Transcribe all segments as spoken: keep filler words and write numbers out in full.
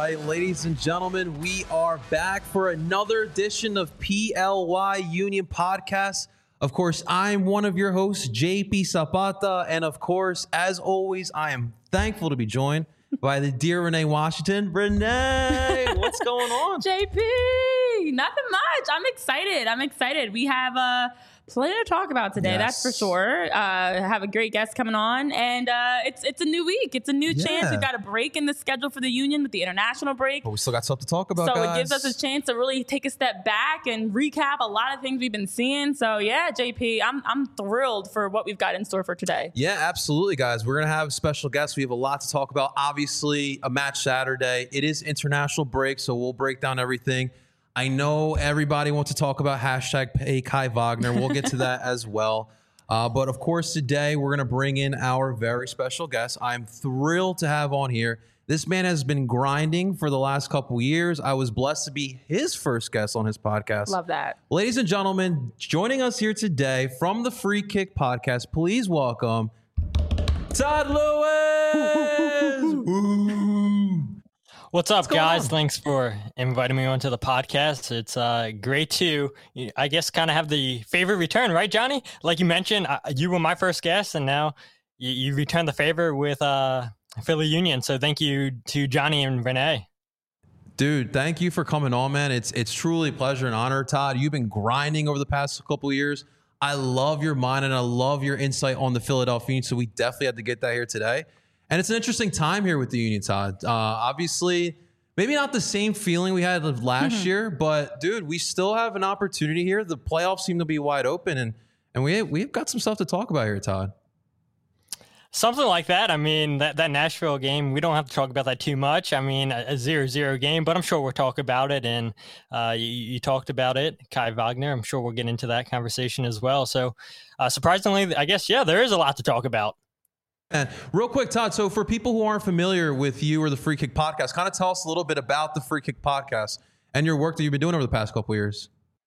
right, ladies and gentlemen, we are back for another edition of P L Y Union Podcast. Of course, I'm one of your hosts, J P Zapata, and of course, as always, I am thankful to be joined by the dear Renee Washington. Renee, what's going on? J P, nothing much. I'm excited. I'm excited. We have uh, plenty to talk about today, Yes. that's for sure. Uh, have a great guest coming on, and uh, it's it's a new week. It's a new Yeah. chance. We've got a break in the schedule for the Union with the international break. But we still got stuff to talk about, So guys. it gives us a chance to really take a step back and recap a lot of things we've been seeing. So yeah, J P, I'm I'm thrilled for what we've got in store for today. Yeah, absolutely, guys. We're going to have special guests. We have a lot to talk about. Obviously, a match Saturday. It is international break, so we'll break down everything. I know everybody wants to talk about hashtag pay Kai Wagner. We'll get to that as well. Uh, but of course, today we're going to bring in our very special guest. I'm thrilled to have on here. This man has been grinding for the last couple years. I was blessed to be his first guest on his podcast. Love that. Ladies and gentlemen, joining us here today from the Free Kick Podcast, please welcome Todd Lewis. Woo. What's up, going guys? on? Thanks for inviting me onto the podcast. It's uh, great to, I guess, kind of have the favorite return, right, Johnny? Like you mentioned, uh, you were my first guest, and now you, you returned the favor with uh, Philly Union. So thank you to Johnny and Renee. Dude, thank you for coming on, man. It's it's truly a pleasure and honor. Todd, you've been grinding over the past couple of years. I love your mind and I love your insight on the Philadelphia Union, so we definitely had to get that here today. And it's an interesting time here with the Union, Todd. Uh, obviously, maybe not the same feeling we had of last Mm-hmm. year, but dude, we still have an opportunity here. The playoffs seem to be wide open, and and we we've got some stuff to talk about here, Todd. Something like that. I mean, that, that Nashville game, we don't have to talk about that too much. I mean, a zero zero game, but I'm sure we'll talk about it. And uh, you, you talked about it, Kai Wagner. I'm sure we'll get into that conversation as well. So uh, surprisingly, I guess, yeah, there is a lot to talk about. And real quick, Todd, so for people who aren't familiar with you or the Free Kick Podcast, kind of tell us a little bit about the Free Kick Podcast and your work that you've been doing over the past couple of years.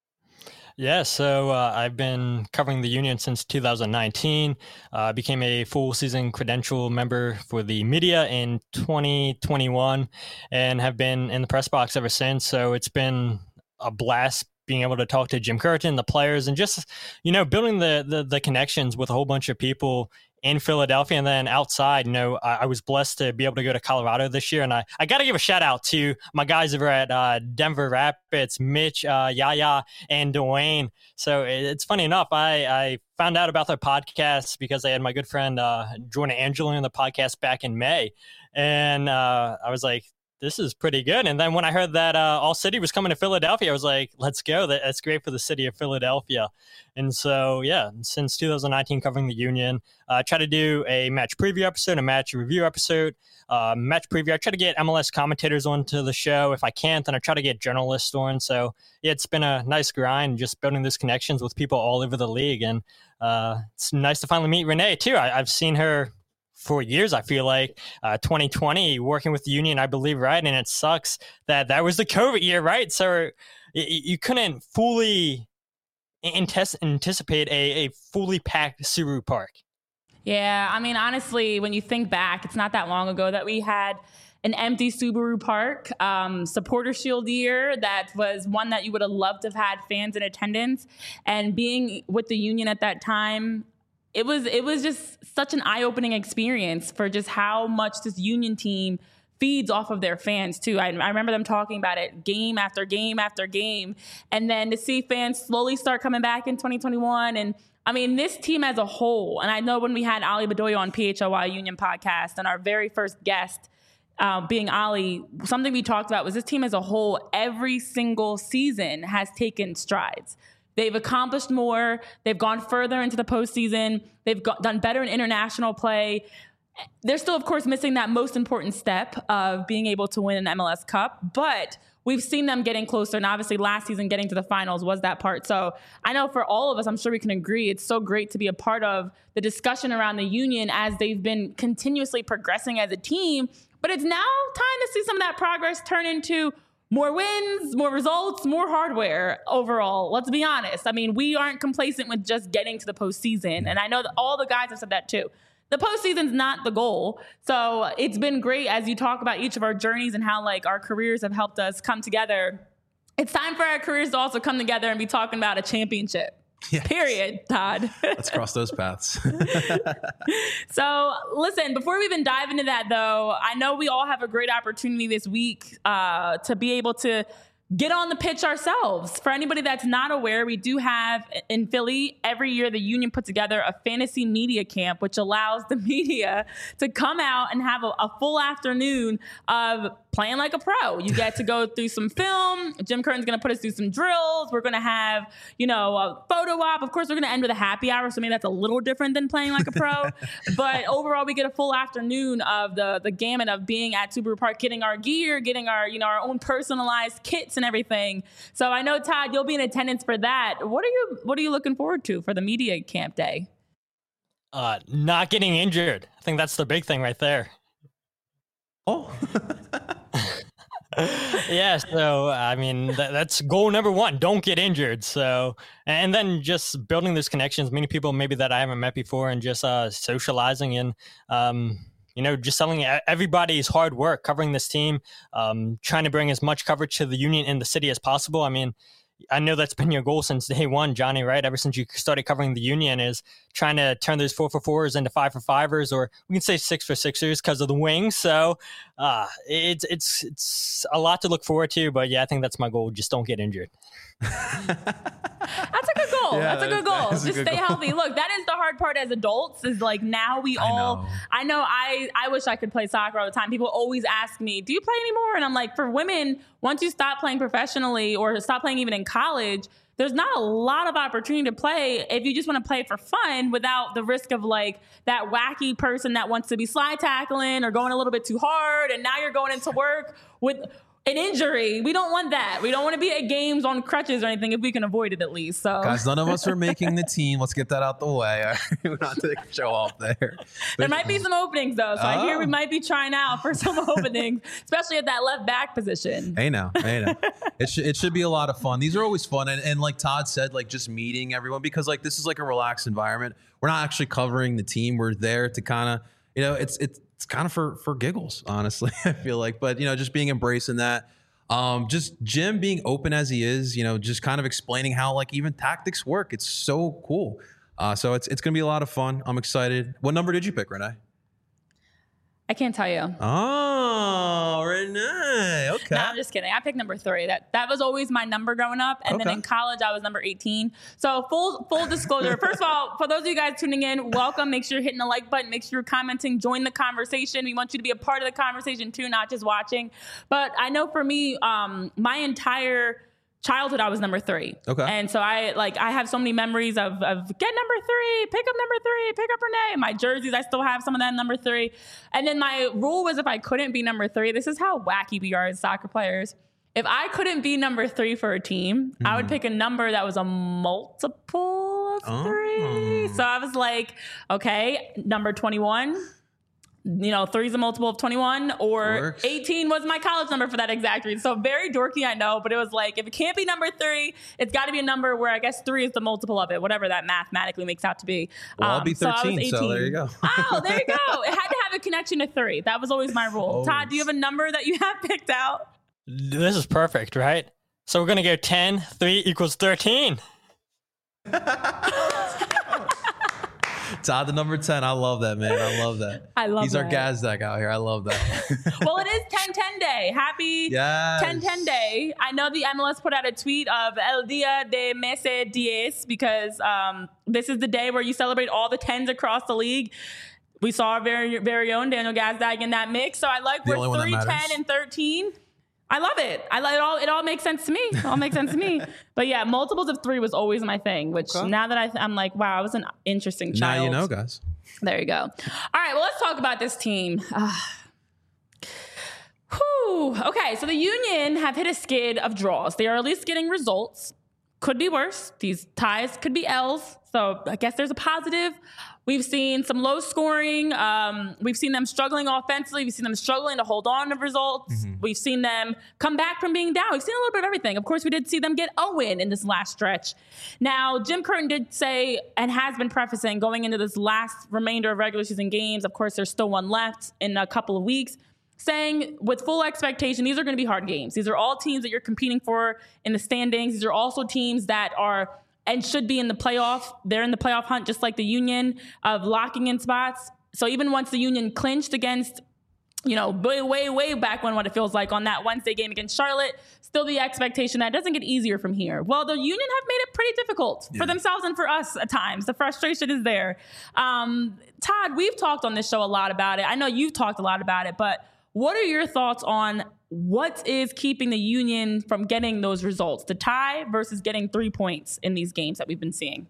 Yeah, so uh, I've been covering the Union since two thousand nineteen. I uh, became a full season credential member for the media in twenty twenty-one and have been in the press box ever since. So it's been a blast being able to talk to Jim Curtin, the players, and just, you know, building the, the, the connections with a whole bunch of people in Philadelphia. And then outside, you know, I, I was blessed to be able to go to Colorado this year. And I, I got to give a shout out to my guys over at uh, Denver Rapids, Mitch, uh, Yaya, and Dwayne. So it, it's funny enough, I, I found out about their podcast because I had my good friend uh, Jordan Angelo on the podcast back in May. And uh, I was like, this is pretty good. And then when I heard that uh, All City was coming to Philadelphia, I was like, let's go. That, that's great for the city of Philadelphia. And so, yeah, since two thousand nineteen, covering the Union, I uh, try to do a match preview episode, a match review episode, uh, match preview. I try to get M L S commentators onto the show. If I can't, then I try to get journalists on. So, yeah, it's been a nice grind just building these connections with people all over the league. And uh, it's nice to finally meet Renee, too. I, I've seen her for years, I feel like, uh, twenty twenty, working with the Union, I believe, right? And it sucks that that was the COVID year, right? So you, you couldn't fully antes- anticipate a, a fully packed Subaru Park. Yeah, I mean, honestly, when you think back, it's not that long ago that we had an empty Subaru Park, um, supporter shield year that was one that you would have loved to have had fans in attendance. And being with the Union at that time, It was it was just such an eye-opening experience for just how much this Union team feeds off of their fans, too. I, I remember them talking about it game after game after game. And then to see fans slowly start coming back in twenty twenty-one. And, I mean, this team as a whole, and I know when we had Ali Bedoya on P H L Y Union podcast and our very first guest uh, being Ali, something we talked about was this team as a whole, every single season has taken strides. They've accomplished more. They've gone further into the postseason. They've got, done better in international play. They're still, of course, missing that most important step of being able to win an M L S Cup, but we've seen them getting closer, and obviously last season getting to the finals was that part. So I know for all of us, I'm sure we can agree, it's so great to be a part of the discussion around the Union as they've been continuously progressing as a team, but it's now time to see some of that progress turn into more wins, more results, more hardware overall. Let's be honest. I mean, we aren't complacent with just getting to the postseason. And I know that all the guys have said that too. the postseason's not the goal. So it's been great as you talk about each of our journeys and how like our careers have helped us come together. It's time for our careers to also come together and be talking about a championship. Yes. Period, Todd. Let's cross those paths. So listen, before we even dive into that though, I know we all have a great opportunity this week uh, to be able to get on the pitch ourselves. For anybody that's not aware, we do have in Philly, every year the union put together a fantasy media camp, which allows the media to come out and have a, a full afternoon of playing like a pro. You get to go through some film. Jim Curtin's going to put us through some drills. We're going to have, you know, a photo op. Of course, we're going to end with a happy hour. So maybe that's a little different than playing like a pro. But overall, we get a full afternoon of the, the gamut of being at Subaru Park, getting our gear, getting our, you know, our own personalized kits and everything. So I know, Todd, you'll be in attendance for that. What are you, what are you looking forward to for the media camp day? Uh, not getting injured. I think that's the big thing right there. Oh, yeah. So, I mean, that, that's goal number one. Don't get injured. So, and then just building those connections, many people maybe that I haven't met before, and just uh, socializing and, um, you know, just telling everybody's hard work, covering this team, um, trying to bring as much coverage to the union in the city as possible. I mean, I know that's been your goal since day one, Johnny, right? Ever since you started covering the union, is trying to turn those four for fours into five for fivers, or we can say six for sixers because of the wings. So uh, it's it's it's a lot to look forward to. But yeah, I think that's my goal. Just don't get injured. That's a good goal. Yeah, that's a good goal. Just good stay goal. healthy. Look, that is the hard part as adults, is like now we I all, know. I know I, I wish I could play soccer all the time. People always ask me, do you play anymore? And I'm like, for women, once you stop playing professionally or stop playing even in college, there's not a lot of opportunity to play if you just want to play for fun without the risk of like that wacky person that wants to be slide tackling or going a little bit too hard. And now you're going into work with an injury. We don't want that. We don't want to be at games on crutches or anything if we can avoid it at least. So guys, none of us are making the team. Let's get that out the way. We're not taking a show off there. There might be some openings though. So Oh. I hear we might be trying out for some openings, especially at that left back position. Hey now, hey now. It should it should be a lot of fun. These are always fun, and, and like Todd said, like just meeting everyone, because like this is like a relaxed environment. We're not actually covering the team. We're there to kind of, you know, it's it's it's kind of for for giggles, honestly. I feel like, but you know, just being embracing that. Um, just Jim being open as he is, you know, just kind of explaining how like even tactics work. It's so cool. Uh, so it's it's gonna be a lot of fun. I'm excited. What number did you pick, Renee? I can't tell you. Oh, Renee. Okay. No, I'm just kidding. I picked number three. That that was always my number growing up. And then Okay. in college, I was number eighteen. So full full disclosure. First of all, for those of you guys tuning in, welcome. Make sure you're hitting the like button. Make sure you're commenting. Join the conversation. We want you to be a part of the conversation too, not just watching. But I know for me, um, my entire childhood, I was number three. Okay. And so I like I have so many memories of of get number three, pick up number three, pick up Renee. My jerseys, I still have some of that number three. And then my rule was if I couldn't be number three, this is how wacky we are as soccer players. If I couldn't be number three for a team, mm-hmm. I would pick a number that was a multiple of Oh. three. So I was like, okay, number twenty-one. You know, three's a multiple of twenty-one, or Works. eighteen was my college number for that exact reason. So very dorky, I know, but it was like, if it can't be number three, it's got to be a number where I guess three is the multiple of it, whatever that mathematically makes out to be. Well, I'll Um, be so I was thirteen, so, eighteen. there you go. Oh, there you go. It had to have a connection to three. That was always my rule. Always. Todd, do you have a number that you have picked out? This is perfect, right? So we're going to go ten, three equals thirteen. Todd, the number ten. I love that, man. I love that. I love He's that. our Gazdak out here. I love that. Well, it is ten ten day. Happy Yes. ten ten day. I know the M L S put out a tweet of El Dia de Mese Diez because um, this is the day where you celebrate all the tens across the league. We saw our very, very own Daniel Gazdag in that mix. So I like The we're only one that three, ten, matters. and thirteen. I love it. I like it all. It all makes sense to me. It all makes sense to me. But yeah, multiples of three was always my thing. Which Okay. now that I, th- I'm like, wow, I was an interesting Now child. you know, guys. There you go. All right, well, let's talk about this team. Ah. Whew. Okay, so the Union have hit a skid of draws. They are at least getting results. could be worse. These ties could be L's. So I guess there's a positive. We've seen some low scoring. Um, we've seen them struggling offensively. We've seen them struggling to hold on to results. Mm-hmm. We've seen them come back from being down. We've seen a little bit of everything. Of course, we did see them get a win in this last stretch. Now, Jim Curtin did say and has been prefacing going into this last remainder of regular season games. Of course, there's still one left in a couple of weeks, saying with full expectation, these are going to be hard games. These are all teams that you're competing for in the standings. These are also teams that are and should be in the playoff. They're in the playoff hunt, just like the Union, of locking in spots. So even once the Union clinched against, you know, way, way, way back when, what it feels like on that Wednesday game against Charlotte, still the expectation that it doesn't get easier from here. Well, the Union have made it pretty difficult yeah. for themselves and for us at times. The frustration is there. Um, Todd, we've talked on this show a lot about it. I know you've talked a lot about it, but what are your thoughts on what is keeping the Union from getting those results, the tie versus getting three points in these games that we've been seeing?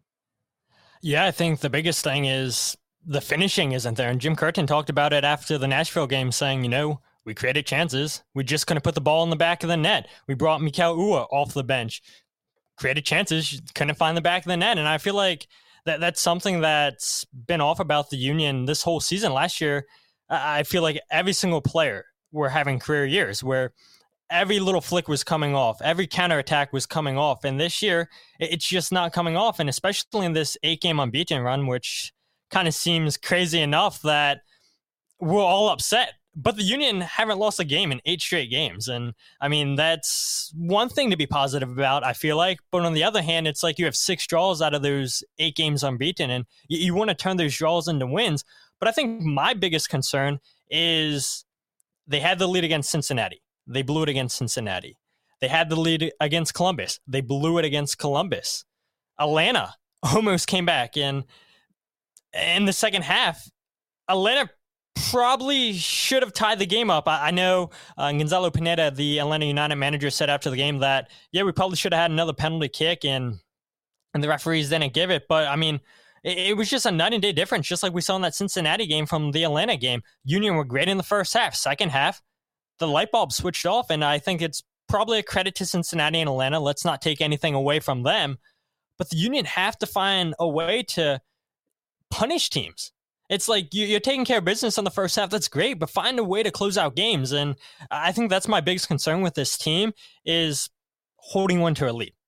Yeah, I think the biggest thing is the finishing isn't there. And Jim Curtin talked about it after the Nashville game, saying, you know, we created chances. We just couldn't put the ball in the back of the net. We brought Mikael Uhre off the bench, created chances, couldn't find the back of the net. And I feel like that that's something that's been off about the Union this whole season. Last year, I feel like every single player were having career years where every little flick was coming off, every counterattack was coming off. And this year, it's just not coming off. And especially in this eight-game unbeaten run, which kind of seems crazy enough that we're all upset. But the Union haven't lost a game in eight straight games. And, I mean, that's one thing to be positive about, I feel like. But on the other hand, it's like you have six draws out of those eight games unbeaten, and you, you want to turn those draws into wins. But I think my biggest concern is they had the lead against Cincinnati. They blew it against Cincinnati. They had the lead against Columbus. They blew it against Columbus. Atlanta almost came back. And in the second half, Atlanta probably should have tied the game up. I, I know uh, Gonzalo Pineda, the Atlanta United manager, said after the game that, yeah, we probably should have had another penalty kick, and, and the referees didn't give it. But, I mean, it was just a night and day difference, just like we saw in that Cincinnati game from the Atlanta game. Union were great in the first half. Second half, the light bulb switched off, and I think it's probably a credit to Cincinnati and Atlanta. Let's not take anything away from them. But the Union have to find a way to punish teams. It's like you're taking care of business on the first half. That's great, but find a way to close out games. And I think that's my biggest concern with this team is holding one to a lead.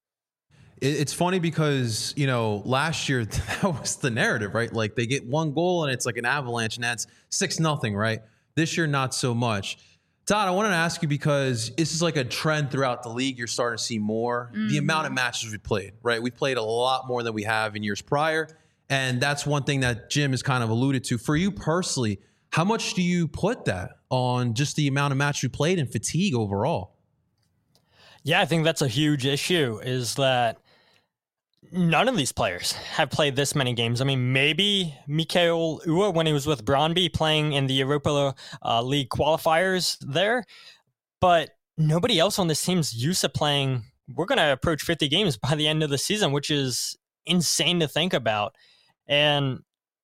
It's funny because, you know, last year that was the narrative, right? Like they get one goal and it's like an avalanche and that's six nothing, right? This year, not so much. Todd, I wanted to ask you because this is like a trend throughout the league. You're starting to see more. Mm-hmm. The amount of matches we played, right? We played a lot more than we have in years prior. And that's one thing that Jim has kind of alluded to. For you personally, how much do you put that on just the amount of matches you played and fatigue overall? Yeah, I think that's a huge issue is that none of these players have played this many games. I mean, maybe Mikael Uhre when he was with Brøndby playing in the Europa uh, League qualifiers there, but nobody else on this team's used to playing. We're going to approach fifty games by the end of the season, which is insane to think about. And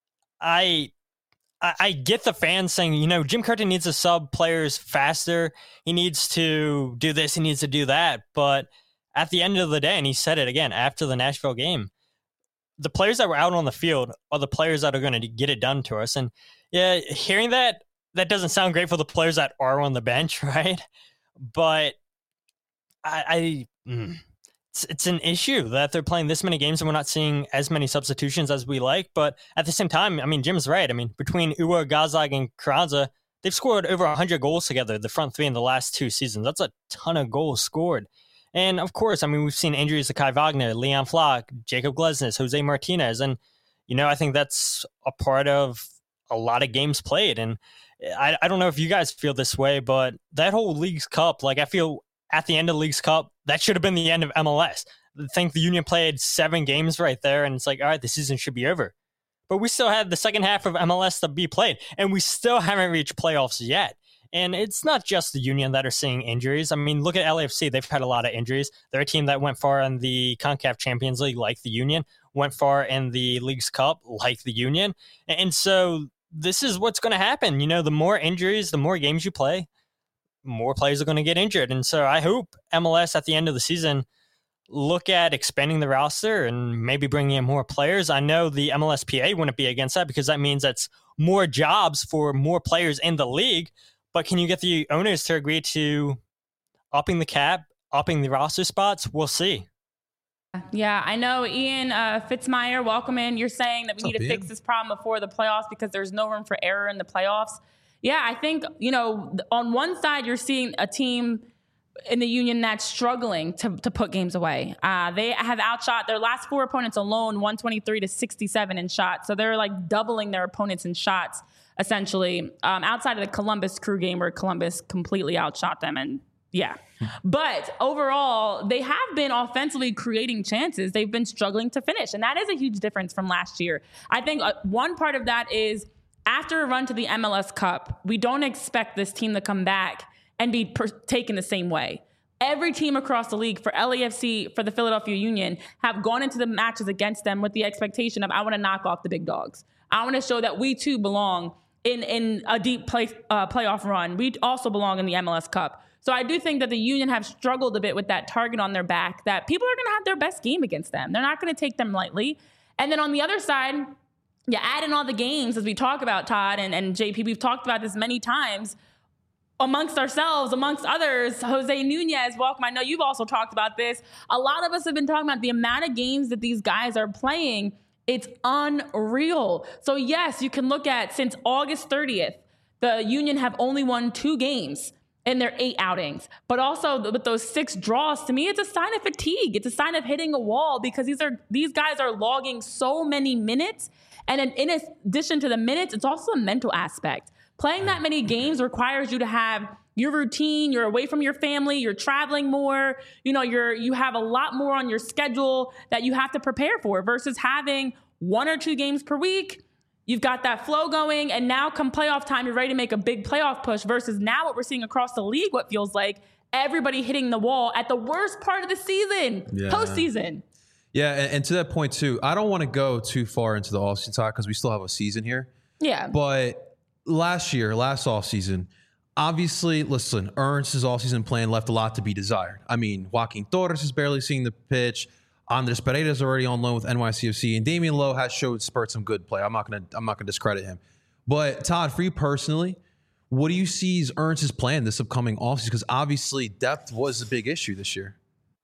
I, I, I get the fans saying, you know, Jim Curtin needs to sub players faster. He needs to do this. He needs to do that. But at the end of the day, and he said it again after the Nashville game, the players that were out on the field are the players that are going to get it done to us. And yeah, hearing that, that doesn't sound great for the players that are on the bench, right? But I, I mm, it's, it's an issue that they're playing this many games and we're not seeing as many substitutions as we like. But at the same time, I mean, Jim's right. I mean, between Uhre, Gazdag, and Carranza, they've scored over one hundred goals together, the front three in the last two seasons. That's a ton of goals scored. And of course, I mean, we've seen injuries to Kai Wagner, Leon Flach, Jacob Glesnes, Jose Martinez. And, you know, I think that's a part of a lot of games played. And I, I don't know if you guys feel this way, but that whole Leagues Cup, like I feel at the end of Leagues Cup, that should have been the end of M L S. I think the Union played seven games right there. And it's like, all right, the season should be over. But we still had the second half of M L S to be played. And we still haven't reached playoffs yet. And it's not just the Union that are seeing injuries. I mean, look at L A F C. They've had a lot of injuries. They're a team that went far in the CONCACAF Champions League like the Union, went far in the Leagues Cup like the Union. And so this is what's going to happen. You know, the more injuries, the more games you play, more players are going to get injured. And so I hope M L S at the end of the season look at expanding the roster and maybe bringing in more players. I know the M L S P A wouldn't be against that because that means that's more jobs for more players in the league. But can you get the owners to agree to upping the cap, upping the roster spots? We'll see. Yeah, I know. Ian uh, Fitzmyer, welcome in. You're saying that we What's need up, to Ian? fix this problem before the playoffs because there's no room for error in the playoffs. Yeah, I think, you know, on one side, you're seeing a team in the Union that's struggling to, to put games away. Uh, they have outshot their last four opponents alone, one twenty-three to sixty-seven in shots. So they're like doubling their opponents in shots, essentially, um, outside of the Columbus Crew game where Columbus completely outshot them. And yeah. But overall, they have been offensively creating chances. They've been struggling to finish. And that is a huge difference from last year. I think uh, one part of that is after a run to the M L S Cup, we don't expect this team to come back and be per- taken the same way. Every team across the league for L A F C, for the Philadelphia Union, have gone into the matches against them with the expectation of, I want to knock off the big dogs. I want to show that we too belong in, in a deep play, uh, playoff run. We also belong in the M L S Cup. So I do think that the Union have struggled a bit with that target on their back, that people are going to have their best game against them. They're not going to take them lightly. And then on the other side, you add in all the games, as we talk about, Todd and, and J P, we've talked about this many times, amongst ourselves, amongst others. Jose Nunez, welcome. I know you've also talked about this. A lot of us have been talking about the amount of games that these guys are playing. It's unreal. So yes, you can look at since August thirtieth, the Union have only won two games in their eight outings. But also with those six draws, to me, it's a sign of fatigue. It's a sign of hitting a wall because these are these guys are logging so many minutes. And in, in addition to the minutes, it's also a mental aspect. Playing that many games requires you to have your routine. You're away from your family. You're traveling more. You know, you're you have a lot more on your schedule that you have to prepare for versus having one or two games per week. You've got that flow going, and now come playoff time, you're ready to make a big playoff push versus now what we're seeing across the league, what feels like everybody hitting the wall at the worst part of the season, Yeah. postseason. Yeah, and, and to that point too, I don't want to go too far into the offseason talk because we still have a season here. Yeah. But last year, last offseason, obviously, listen, Ernst's offseason plan left a lot to be desired. I mean, Joaquin Torres is barely seeing the pitch. Andres Pereira is already on loan with N Y C F C, and Damian Lowe has showed spurts some good play. I'm not gonna I'm not gonna discredit him. But Todd, for you personally, what do you see as Ernst's plan this upcoming offseason? Because obviously depth was a big issue this year.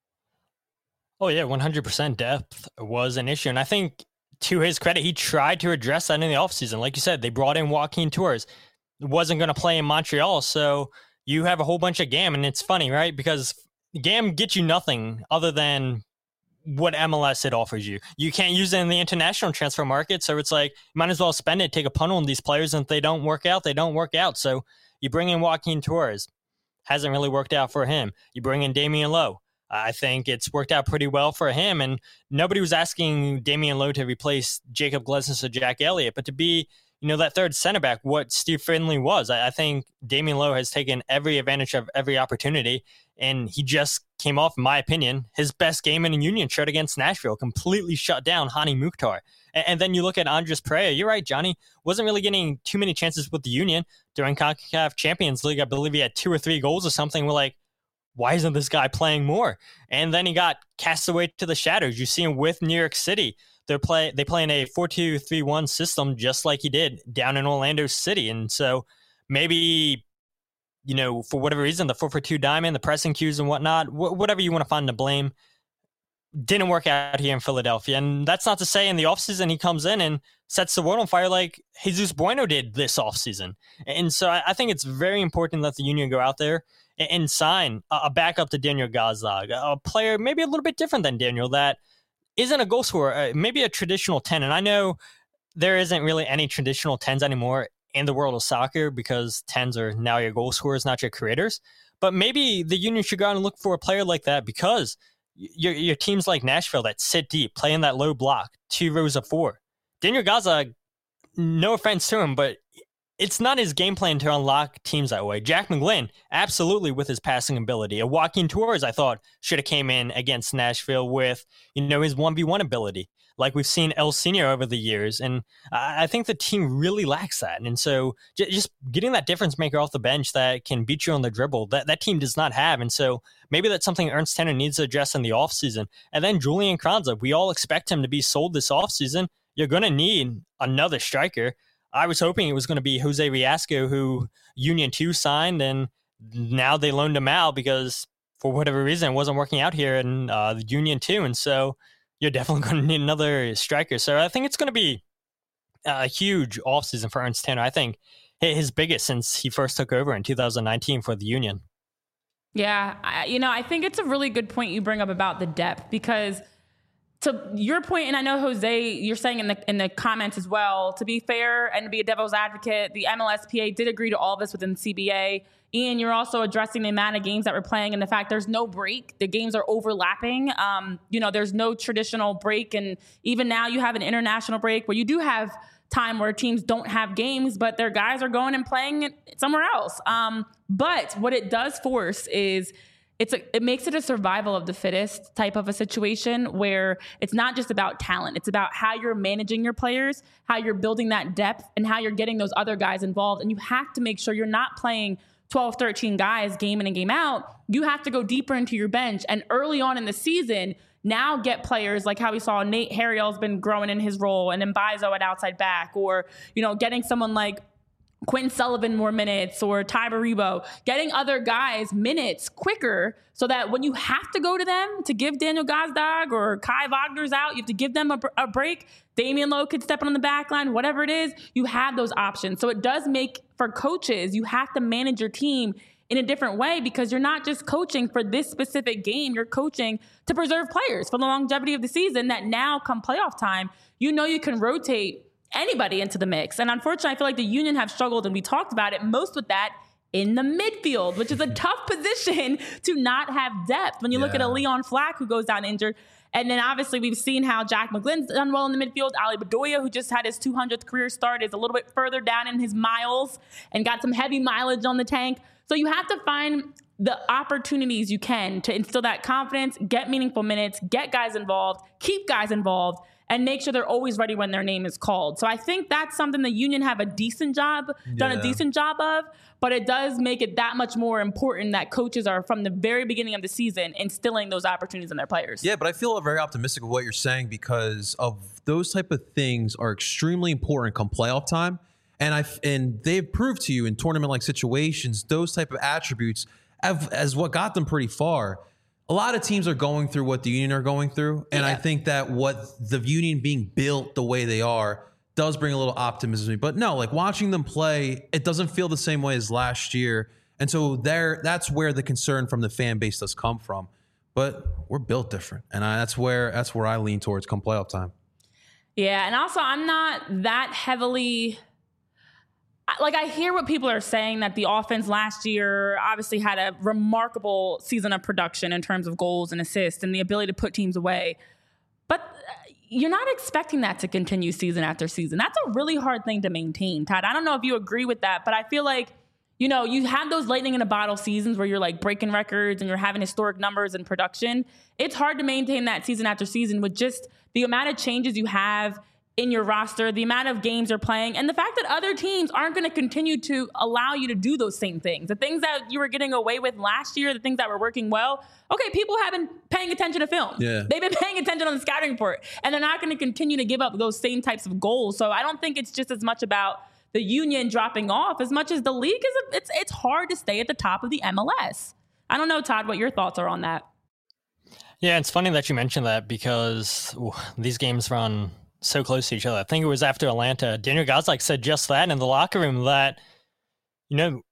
Oh yeah, one hundred percent depth was an issue. And I think to his credit, he tried to address that in the offseason. Like you said, they brought in Joaquin Torres. Wasn't going to play in Montreal, so you have a whole bunch of G A M. And it's funny, right? Because G A M gets you nothing other than what M L S it offers you. You can't use it in the international transfer market, so it's like, you might as well spend it, take a punt on these players, and if they don't work out, they don't work out. So you bring in Joaquin Torres. Hasn't really worked out for him. You bring in Damian Lowe. I think it's worked out pretty well for him, and nobody was asking Damian Lowe to replace Jacob Glesnes or Jack Elliott, but to be, you know, that third center back, what Steve Finley was. I, I think Damian Lowe has taken every advantage of every opportunity, and he just came off, in my opinion, his best game in a Union shirt against Nashville, completely shut down Hani Mukhtar. And, and then you look at Andres Pereira. You're right, Johnny. Wasn't really getting too many chances with the Union. During CONCACAF Champions League, I believe he had two or three goals or something. We're like, why isn't this guy playing more? And then he got cast away to the shadows. You see him with New York City. They're play they play in a four two three one system just like he did down in Orlando City. And so maybe, you know, for whatever reason, the four four two diamond, the pressing cues and whatnot, wh- whatever you want to find to blame, didn't work out here in Philadelphia. And that's not to say in the offseason he comes in and sets the world on fire like Jesus Bueno did this offseason. And so I, I think it's very important that the Union go out there and, and sign a, a backup to Daniel Gazdag, a player maybe a little bit different than Daniel that isn't a goal scorer, uh, maybe a traditional ten. And I know there isn't really any traditional tens anymore in the world of soccer because tens are now your goal scorers, not your creators. But maybe the Union should go out and look for a player like that because your your teams like Nashville that sit deep, play in that low block, two rows of four. Daniel Gazdag, no offense to him, but it's not his game plan to unlock teams that way. Jack McGlynn, absolutely with his passing ability. A Joaquin Torres, I thought, should have came in against Nashville with, you know, his one v one ability. like we've seen El Senior over the years. And I think the team really lacks that. And so j- just getting that difference maker off the bench that can beat you on the dribble, that, that team does not have. And so maybe that's something Ernst Tanner needs to address in the offseason. And then Julian Carranza, we all expect him to be sold this offseason. You're going to need another striker. I was hoping it was going to be Jose Riasco, who Union two signed, and now they loaned him out because for whatever reason it wasn't working out here in uh, the Union two. And so you're definitely going to need another striker. So I think it's going to be a huge offseason for Ernst Tanner. I think his biggest since he first took over in two thousand nineteen for the Union. Yeah, I, you know, I think it's a really good point you bring up about the depth, because to your point, and I know Jose, you're saying in the in the comments as well, to be fair and to be a devil's advocate, the M L S P A did agree to all this within the C B A. Ian, you're also addressing the amount of games that we're playing and the fact there's no break. The games are overlapping. Um, you know, there's no traditional break. And even now you have an international break where you do have time where teams don't have games, but their guys are going and playing it somewhere else. Um, but what it does force is It's a, it makes it a survival of the fittest type of a situation where it's not just about talent. It's about how you're managing your players, how you're building that depth, and how you're getting those other guys involved. And you have to make sure you're not playing twelve, thirteen guys game in and game out. You have to go deeper into your bench. And early on in the season, now get players like how we saw Nate Harriel's been growing in his role, and Mbaizo at outside back, or, you know, getting someone like Quentin Sullivan more minutes, or Ty Baribo, getting other guys minutes quicker so that when you have to go to them to give Daniel Gazdag or Kai Wagner's out, you have to give them a, a break. Damian Lowe could step on the back line, whatever it is, you have those options. So it does make, for coaches, you have to manage your team in a different way, because you're not just coaching for this specific game, you're coaching to preserve players for the longevity of the season, that now come playoff time, you know you can rotate anybody into the mix. And unfortunately, I feel like the Union have struggled, and we talked about it most with that in the midfield, which is a tough position to not have depth. When you yeah. look at a Leon Flack who goes down injured, and then obviously we've seen how Jack McGlynn's done well in the midfield. Ali Bedoya, who just had his two hundredth career start, is a little bit further down in his miles and got some heavy mileage on the tank. So you have to find the opportunities you can to instill that confidence, get meaningful minutes, get guys involved, keep guys involved, and make sure they're always ready when their name is called. So I think that's something the Union have a decent job, done yeah. a decent job of, but it does make it that much more important that coaches are, from the very beginning of the season, instilling those opportunities in their players. Yeah, but I feel very optimistic of what you're saying, because of those type of things are extremely important come playoff time. And I and they've proved to you in tournament-like situations, those type of attributes have, as what got them pretty far. A lot of teams are going through what the Union are going through. And yeah. I think that what the Union being built the way they are does bring a little optimism to me. But no, like watching them play, it doesn't feel the same way as last year. And so there, that's where the concern from the fan base does come from. But we're built different. And I, that's where that's where I lean towards come playoff time. Yeah, and also I'm not that heavily... Like, I hear what people are saying, that the offense last year obviously had a remarkable season of production in terms of goals and assists and the ability to put teams away. But you're not expecting that to continue season after season. That's a really hard thing to maintain, Todd. I don't know if you agree with that, but I feel like, you know, you have those lightning in a bottle seasons where you're like breaking records and you're having historic numbers in production. It's hard to maintain that season after season with just the amount of changes you have in your roster, the amount of games you're playing, and the fact that other teams aren't going to continue to allow you to do those same things. The things that you were getting away with last year, the things that were working well, okay, people have been paying attention to film. Yeah. They've been paying attention on the scouting report, and they're not going to continue to give up those same types of goals. So I don't think it's just as much about the Union dropping off as much as the league is. A, it's, it's hard to stay at the top of the M L S. I don't know, Todd, what your thoughts are on that. Yeah, it's funny that you mentioned that, because ooh, these games run so close to each other. I think it was after Atlanta, Daniel Gazdag said just that in the locker room, that, you know,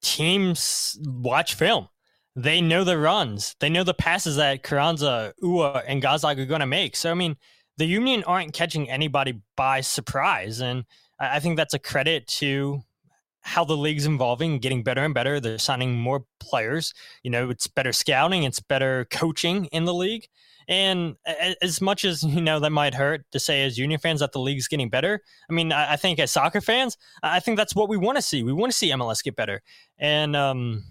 teams watch film. They know the runs. They know the passes that Carranza, Ua, and Gazdag are going to make. So, I mean, the Union aren't catching anybody by surprise. And I think that's a credit to how the league's evolving, getting better and better. They're signing more players. You know, it's better scouting. It's better coaching in the league. And as much as, you know, that might hurt to say as Union fans that the league's getting better, I mean, I think as soccer fans, I think that's what we want to see. We want to see M L S get better. And um,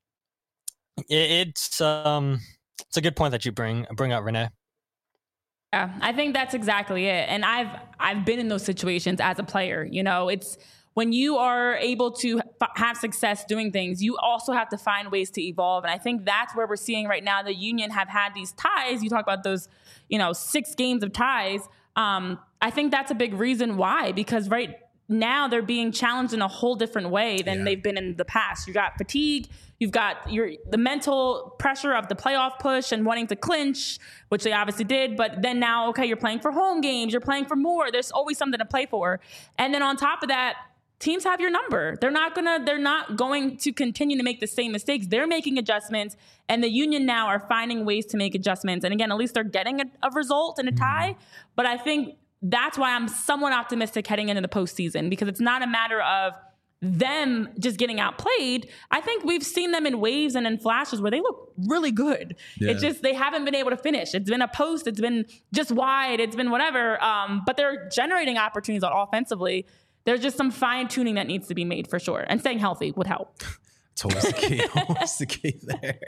it, it's um, it's a good point that you bring bring up, Renee. Yeah, I think that's exactly it. And I've I've been in those situations as a player. You know, it's when you are able to f- have success doing things, you also have to find ways to evolve. And I think that's where we're seeing right now. The Union have had these ties. You talk about those, you know, six games of ties. Um, I think that's a big reason why, because right now they're being challenged in a whole different way than yeah. they've been in the past. You got fatigue. You've got your the mental pressure of the playoff push and wanting to clinch, which they obviously did. But then now, okay, you're playing for home games. You're playing for more. There's always something to play for. And then on top of that, teams have your number. They're not gonna. They're not going to continue to make the same mistakes. They're making adjustments, and the Union now are finding ways to make adjustments. And again, at least they're getting a, a result and a tie. Mm. But I think that's why I'm somewhat optimistic heading into the postseason, because it's not a matter of them just getting outplayed. I think we've seen them in waves and in flashes where they look really good. Yeah. It's just they haven't been able to finish. It's been a post. It's been just wide. It's been whatever. Um, but they're generating opportunities offensively. There's just some fine tuning that needs to be made for sure. And staying healthy would help. It's always the key. Always the key there.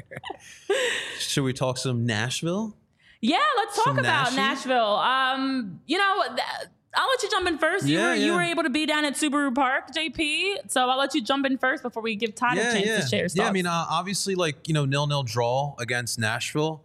Should we talk some Nashville? Yeah, let's talk some about Nashville. Nashville. Um, you know, th- I'll let you jump in first. You, yeah, were, yeah. you were able to be down at Subaru Park, J P. So I'll let you jump in first before we give Todd yeah, a chance yeah. to share his Yeah, thoughts. I mean, uh, obviously, like, you know, nil-nil draw against Nashville.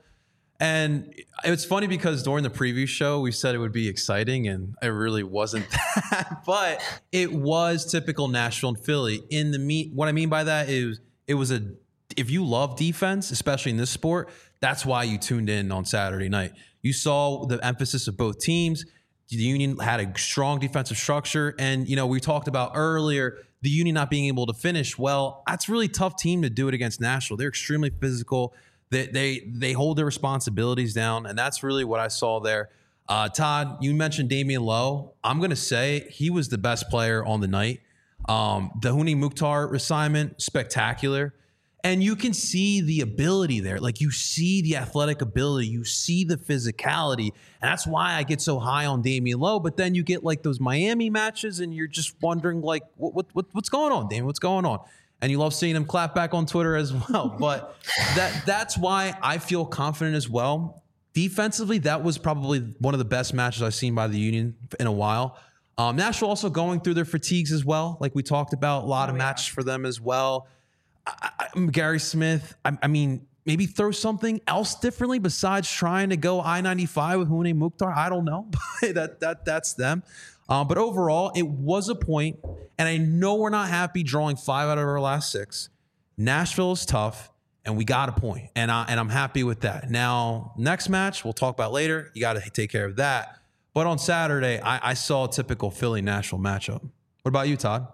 And it's funny because during the preview show, we said it would be exciting, and it really wasn't that. But it was typical Nashville and Philly. In the meet, what I mean by that is it was a, if you love defense, especially in this sport, that's why you tuned in on Saturday night. You saw the emphasis of both teams. The Union had a strong defensive structure. And, you know, we talked about earlier, the Union not being able to finish. Well, that's a really tough team to do it against Nashville. They're extremely physical. They, they they hold their responsibilities down, and that's really what I saw there. Uh, Todd, you mentioned Damian Lowe. I'm going to say he was the best player on the night. Um, the Huni Mukhtar assignment, spectacular. And you can see the ability there. Like, you see the athletic ability. You see the physicality. And that's why I get so high on Damian Lowe. But then you get, like, those Miami matches, and you're just wondering, like, what, what what's going on, Damian? What's going on? And you love seeing him clap back on Twitter as well. But that that's why I feel confident as well. Defensively, that was probably one of the best matches I've seen by the Union in a while. Um, Nashville also going through their fatigues as well. Like we talked about, a lot of matches for them as well. I, I, Gary Smith, I, I mean, maybe throw something else differently besides trying to go I ninety-five with Huni Mukhtar. I don't know. that that That's them. Um, but overall, it was a point, and I know we're not happy drawing five out of our last six. Nashville is tough, and we got a point, and, I, and I'm happy with that. Now, next match, we'll talk about later. You got to take care of that. But on Saturday, I, I saw a typical Philly-Nashville matchup. What about you, Todd?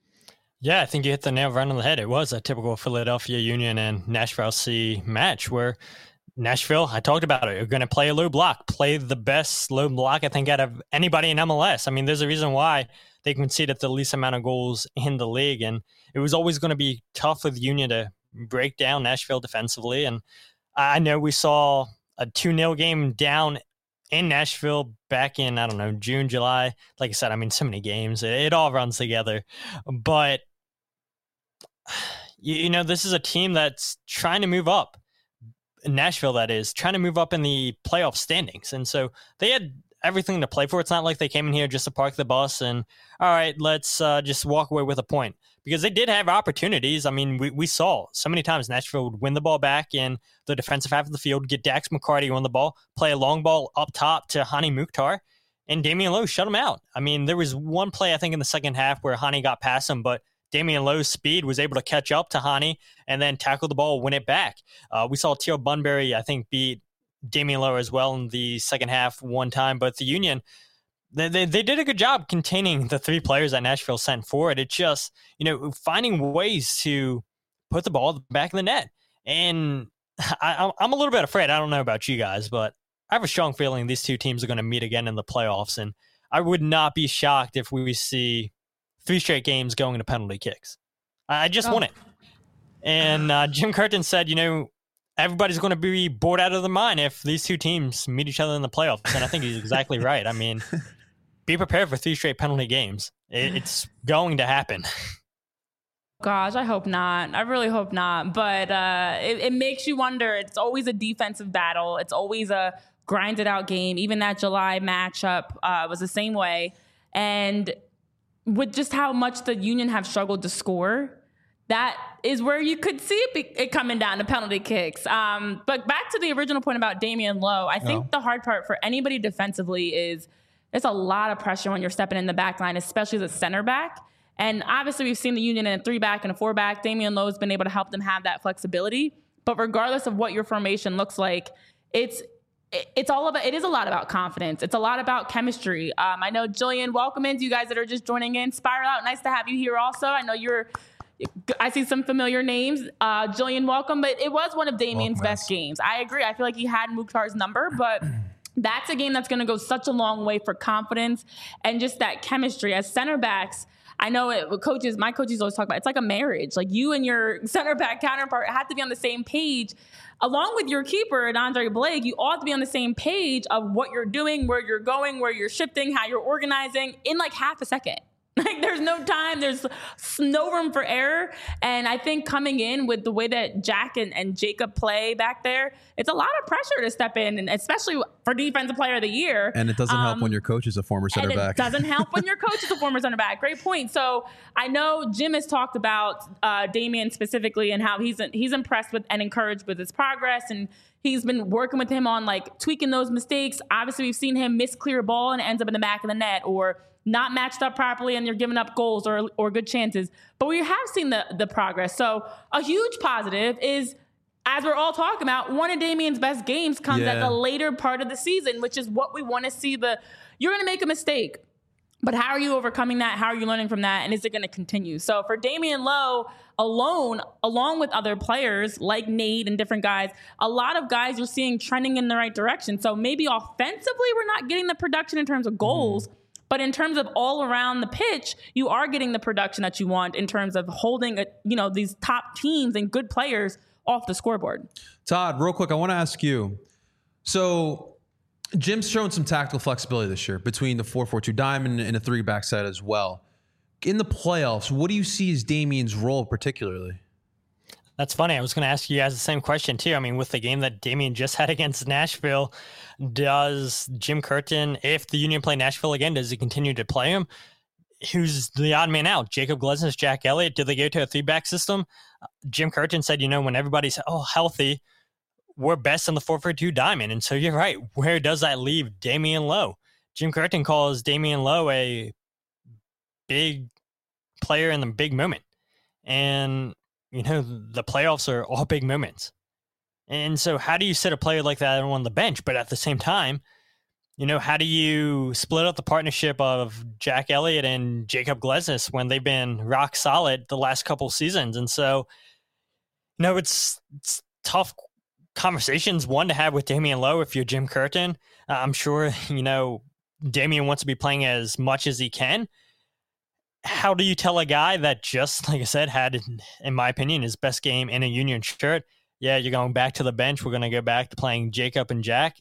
Yeah, I think you hit the nail right on the head. It was a typical Philadelphia Union and Nashville C match where Nashville, I talked about it, you're going to play a low block, play the best low block, I think, out of anybody in M L S. I mean, there's a reason why they conceded the least amount of goals in the league, and it was always going to be tough with Union to break down Nashville defensively. And I know we saw a two nil game down in Nashville back in, I don't know, June, July. Like I said, I mean, so many games. It, it all runs together. But, you, you know, this is a team that's trying to move up. Nashville, that is, trying to move up in the playoff standings. And so they had everything to play for. It's not like they came in here just to park the bus and, all right, let's uh, just walk away with a point. Because they did have opportunities. I mean, we, we saw so many times Nashville would win the ball back in the defensive half of the field, get Dax McCarty on the ball, play a long ball up top to Huni Mukhtar, and Damian Lowe shut him out. I mean, there was one play, I think, in the second half where Huni got past him, but Damian Lowe's speed was able to catch up to Huni and then tackle the ball, win it back. Uh, we saw Teal Bunbury, I think, beat Damian Lowe as well in the second half one time. But the Union, they, they they did a good job containing the three players that Nashville sent forward. It's just, you know, finding ways to put the ball back in the net. And I, I'm a little bit afraid. I don't know about you guys, but I have a strong feeling these two teams are going to meet again in the playoffs. And I would not be shocked if we see three straight games going to penalty kicks. I just oh. want it. And uh, Jim Curtin said, you know, everybody's going to be bored out of their mind if these two teams meet each other in the playoffs. And I think he's exactly right. I mean, be prepared for three straight penalty games. It, it's going to happen. Gosh, I hope not. I really hope not. But uh, it, it makes you wonder. It's always a defensive battle. It's always a grinded out game. Even that July matchup uh, was the same way. And with just how much the Union have struggled to score, that is where you could see it, be, it coming down to penalty kicks. Um, but back to the original point about Damian Lowe, I think oh. the hard part for anybody defensively is there's a lot of pressure when you're stepping in the back line, especially as a center back. And obviously we've seen the Union in a three back and a four back. Damian Lowe has been able to help them have that flexibility. But regardless of what your formation looks like, it's it's all about, it is a lot about confidence. It's a lot about chemistry. Um, I know Jillian, welcome in to you guys that are just joining in. Spiral Out, nice to have you here also. I know you're I see some familiar names. Uh, Jillian, welcome. But it was one of Damian's welcome, best games. I agree. I feel like he had Mukhtar's number, but that's a game that's going to go such a long way for confidence and just that chemistry. As center backs, I know it, coaches, my coaches always talk about, it's like a marriage. Like you and your center back counterpart have to be on the same page. Along with your keeper, and Andre Blake, you ought to be on the same page of what you're doing, where you're going, where you're shifting, how you're organizing in like half a second. Like there's no time, there's no room for error. And I think coming in with the way that Jack and, and Jacob play back there, it's a lot of pressure to step in, and especially for Defensive Player of the Year. And it doesn't um, help when your coach is a former center and back. It doesn't help when your coach is a former center back. Great point. So I know Jim has talked about uh, Damian specifically and how he's he's impressed with and encouraged with his progress, and he's been working with him on like tweaking those mistakes. Obviously, we've seen him miss clear ball and it ends up in the back of the net, or not matched up properly and you're giving up goals or or good chances. But we have seen the the progress. So a huge positive is, as we're all talking about, one of Damian's best games comes yeah. at the later part of the season, which is what we want to see. The you're going to make a mistake, but how are you overcoming that? How are you learning from that? And is it going to continue? So for Damian Lowe alone, along with other players like Nate and different guys, a lot of guys you're seeing trending in the right direction. So maybe offensively, we're not getting the production in terms of goals, mm. but in terms of all around the pitch, you are getting the production that you want in terms of holding, a, you know, these top teams and good players off the scoreboard. Todd, real quick, I want to ask you. So Jim's shown some tactical flexibility this year between the four four two diamond and a three-back set as well. In the playoffs, what do you see as Damian's role particularly? That's funny. I was going to ask you guys the same question too. I mean, with the game that Damian just had against Nashville, does Jim Curtin, if the Union play Nashville again, does he continue to play him? Who's the odd man out? Jacob Glesnes, Jack Elliott? Do they go to a three-back system? Uh, Jim Curtin said, you know, when everybody's oh healthy, we're best in the four four two diamond. And so you're right. Where does that leave Damian Lowe? Jim Curtin calls Damian Lowe a big player in the big moment. And, you know, the playoffs are all big moments. And so how do you sit a player like that on the bench? But at the same time, you know, how do you split up the partnership of Jack Elliott and Jacob Glesnes when they've been rock solid the last couple seasons? And so, you know, it's, it's tough conversations, one, to have with Damian Lowe if you're Jim Curtin. Uh, I'm sure, you know, Damian wants to be playing as much as he can. How do you tell a guy that just, like I said, had, in my opinion, his best game in a Union shirt, yeah, you're going back to the bench, we're going to go back to playing Jacob and Jack?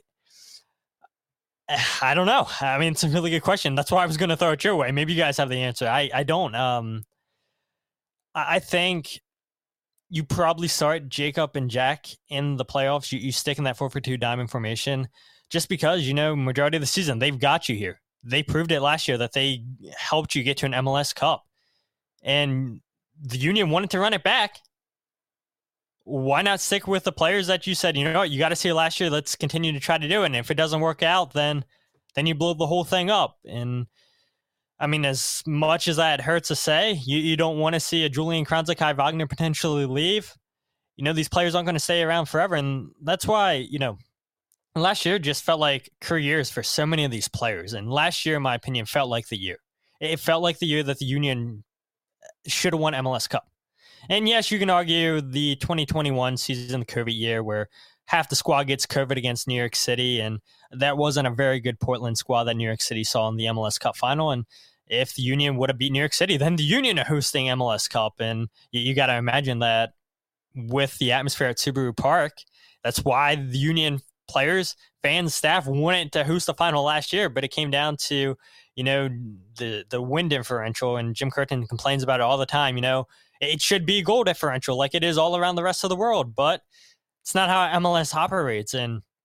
I don't know. I mean, it's a really good question. That's why I was going to throw it your way. Maybe you guys have the answer. I, I don't. Um, I think you probably start Jacob and Jack in the playoffs. You, you stick in that four four two diamond formation just because, you know, majority of the season, they've got you here. They proved it last year that they helped you get to an M L S Cup. And the Union wanted to run it back. Why not stick with the players that you said, you know what, you got to see it last year. Let's continue to try to do it. And if it doesn't work out, then then you blow the whole thing up. And I mean, as much as that hurts to say, you, you don't want to see a Julian Kranzak, Kai Wagner potentially leave. You know, these players aren't going to stay around forever. And that's why, you know, last year just felt like careers for so many of these players. And last year, in my opinion, felt like the year. It felt like the year that the Union should have won M L S Cup. And yes, you can argue the twenty twenty-one season, the COVID year, where half the squad gets COVID against New York City, and that wasn't a very good Portland squad that New York City saw in the M L S Cup final. And if the Union would have beat New York City, then the Union are hosting M L S Cup. And you, you got to imagine that with the atmosphere at Subaru Park, that's why the Union players, fans, staff wanted to host the final last year, but it came down to, you know, the the wind differential, and Jim Curtin complains about it all the time. You know, it should be goal differential like it is all around the rest of the world, but it's not how M L S operates. And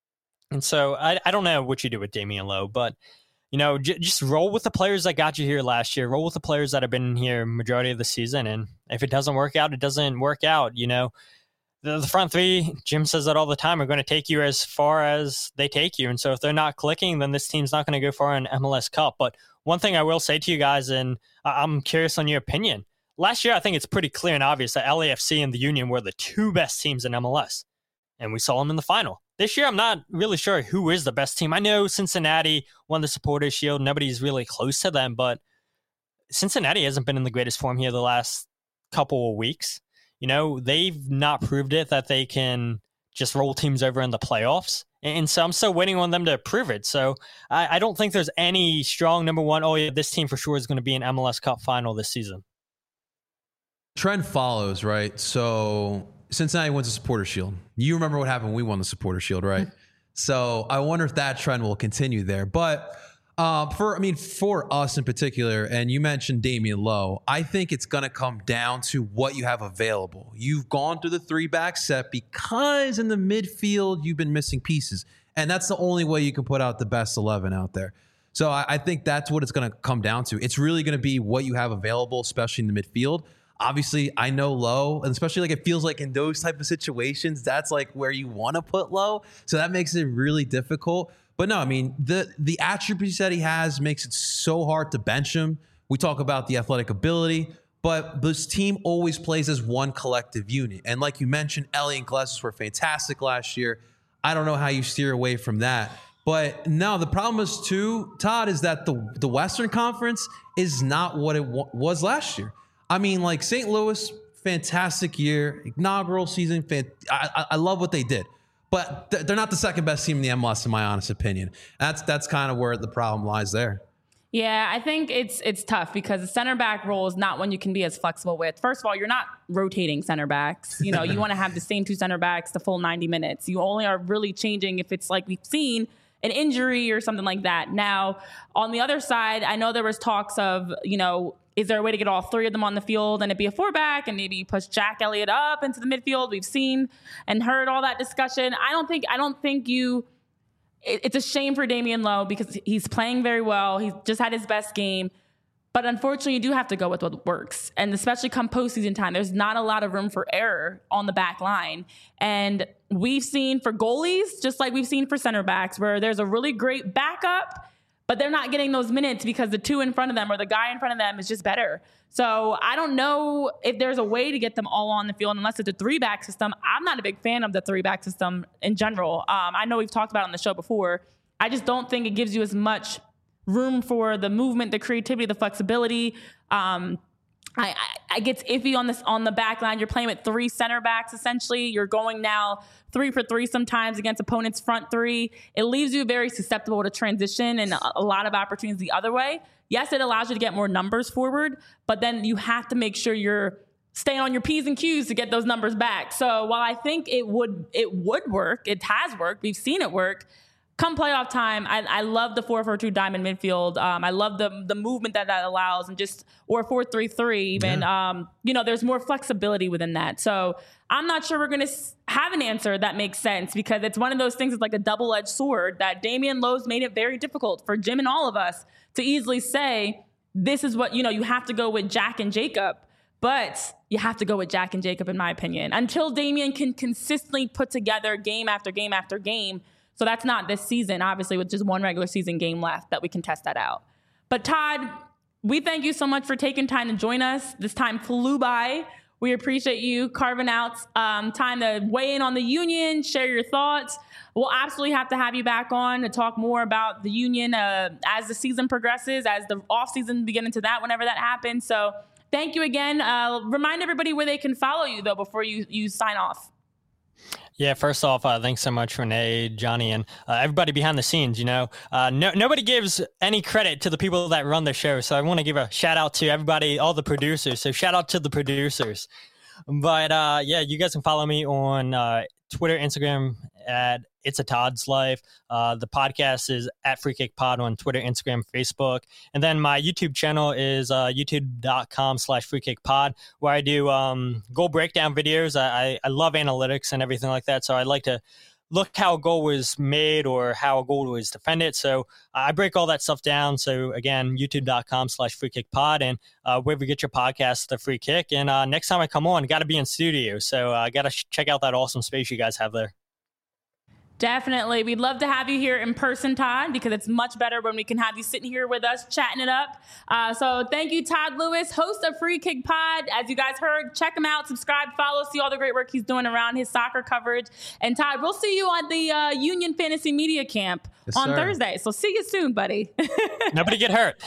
And so I, I don't know what you do with Damian Lowe, but you know, j- just roll with the players that got you here last year. Roll with the players that have been here majority of the season. And if it doesn't work out, it doesn't work out. You know, the, the front three, Jim says that all the time, are going to take you as far as they take you. And so if they're not clicking, then this team's not going to go far in M L S Cup. But one thing I will say to you guys, and I'm curious on your opinion. Last year, I think it's pretty clear and obvious that L A F C and the Union were the two best teams in M L S. And we saw them in the final. This year, I'm not really sure who is the best team. I know Cincinnati won the Supporters Shield. Nobody's really close to them, but Cincinnati hasn't been in the greatest form here the last couple of weeks. You know, they've not proved it that they can just roll teams over in the playoffs. And so I'm still waiting on them to prove it. So I, I don't think there's any strong number one, oh yeah, this team for sure is going to be an M L S Cup final this season. Trend follows, right? So Cincinnati wins the Supporters Shield. You remember what happened when we won the Supporters Shield, right? So I wonder if that trend will continue there. But uh, for, I mean, for us in particular, and you mentioned Damian Lowe, I think it's going to come down to what you have available. You've gone through the three-back set because in the midfield, you've been missing pieces. And that's the only way you can put out the best eleven out there. So I, I think that's what it's going to come down to. It's really going to be what you have available, especially in the midfield. Obviously, I know Lowe, and especially like it feels like in those type of situations, that's like where you want to put Lowe. So that makes it really difficult. But no, I mean, the the attributes that he has makes it so hard to bench him. We talk about the athletic ability, but this team always plays as one collective unit. And like you mentioned, Ellie and Gillespie were fantastic last year. I don't know how you steer away from that. But no, the problem is too, Todd, is that the, the Western Conference is not what it w- was last year. I mean, like Saint Louis, fantastic year, inaugural season. Fan- I, I love what they did, but th- they're not the second best team in the M L S, in my honest opinion. That's that's kind of where the problem lies there. Yeah, I think it's it's tough because the center back role is not one you can be as flexible with. First of all, you're not rotating center backs. You know, you want to have the same two center backs the full ninety minutes. You only are really changing if it's like we've seen an injury or something like that. Now, on the other side, I know there was talks of, you know, is there a way to get all three of them on the field and it be a four back and maybe you push Jack Elliott up into the midfield? We've seen and heard all that discussion. I don't think I don't think you it, it's a shame for Damian Lowe because he's playing very well. He's just had his best game. But unfortunately, you do have to go with what works. And especially come postseason time, there's not a lot of room for error on the back line. And we've seen for goalies, just like we've seen for center backs, where there's a really great backup, but they're not getting those minutes because the two in front of them or the guy in front of them is just better. So I don't know if there's a way to get them all on the field unless it's a three-back system. I'm not a big fan of the three-back system in general. Um, I know we've talked about it on the show before. I just don't think it gives you as much room for the movement, the creativity, the flexibility. Um, I, I, I gets iffy on this on the back line. You're playing with three center backs, essentially. You're going now three for three sometimes against opponents' front three. It leaves you very susceptible to transition and a, a lot of opportunities the other way. Yes, it allows you to get more numbers forward, but then you have to make sure you're staying on your P's and Q's to get those numbers back. So while I think it would it would work, it has worked, we've seen it work, come playoff time, I, I love the four four two diamond midfield. Um, I love the the movement that that allows, and just or four three three even. Yeah. Um, you know, there's more flexibility within that. So I'm not sure we're going to have an answer that makes sense because it's one of those things. It's like a double edged sword that Damian Lowe's made it very difficult for Jim and all of us to easily say this is what you know. You have to go with Jack and Jacob, but you have to go with Jack and Jacob, in my opinion, until Damian can consistently put together game after game after game. So that's not this season, obviously, with just one regular season game left that we can test that out. But Todd, we thank you so much for taking time to join us. This time flew by. We appreciate you carving out um, time to weigh in on the Union, share your thoughts. We'll absolutely have to have you back on to talk more about the Union uh, as the season progresses, as the offseason begin into that, whenever that happens. So thank you again. Uh, remind everybody where they can follow you, though, before you, you sign off. Yeah, first off, uh, thanks so much, Renee, Johnny, and uh, everybody behind the scenes. You know, uh, no, nobody gives any credit to the people that run the show. So I want to give a shout out to everybody, all the producers. So shout out to the producers. But uh, yeah, you guys can follow me on uh, Twitter, Instagram at It's a Todd's Life. Uh, the podcast is at Free Kick Pod on Twitter, Instagram, Facebook. And then my YouTube channel is uh, youtube.com slash Free Kick Pod, where I do um, goal breakdown videos. I, I, I love analytics and everything like that. So I like to look how a goal was made or how a goal was defended. So uh, I break all that stuff down. So again, youtube.com slash free kick pod and uh, wherever you get your podcast, The Free Kick. And uh, next time I come on, got to be in studio. So I uh, got to sh- check out that awesome space you guys have there. Definitely. We'd love to have you here in person, Todd, because it's much better when we can have you sitting here with us, chatting it up. Uh, so thank you, Todd Lewis, host of Free Kick Pod. As you guys heard, check him out, subscribe, follow, see all the great work he's doing around his soccer coverage. And Todd, we'll see you on the uh, Union Fantasy Media Camp yes, on sir. Thursday. So see you soon, buddy. Nobody get hurt.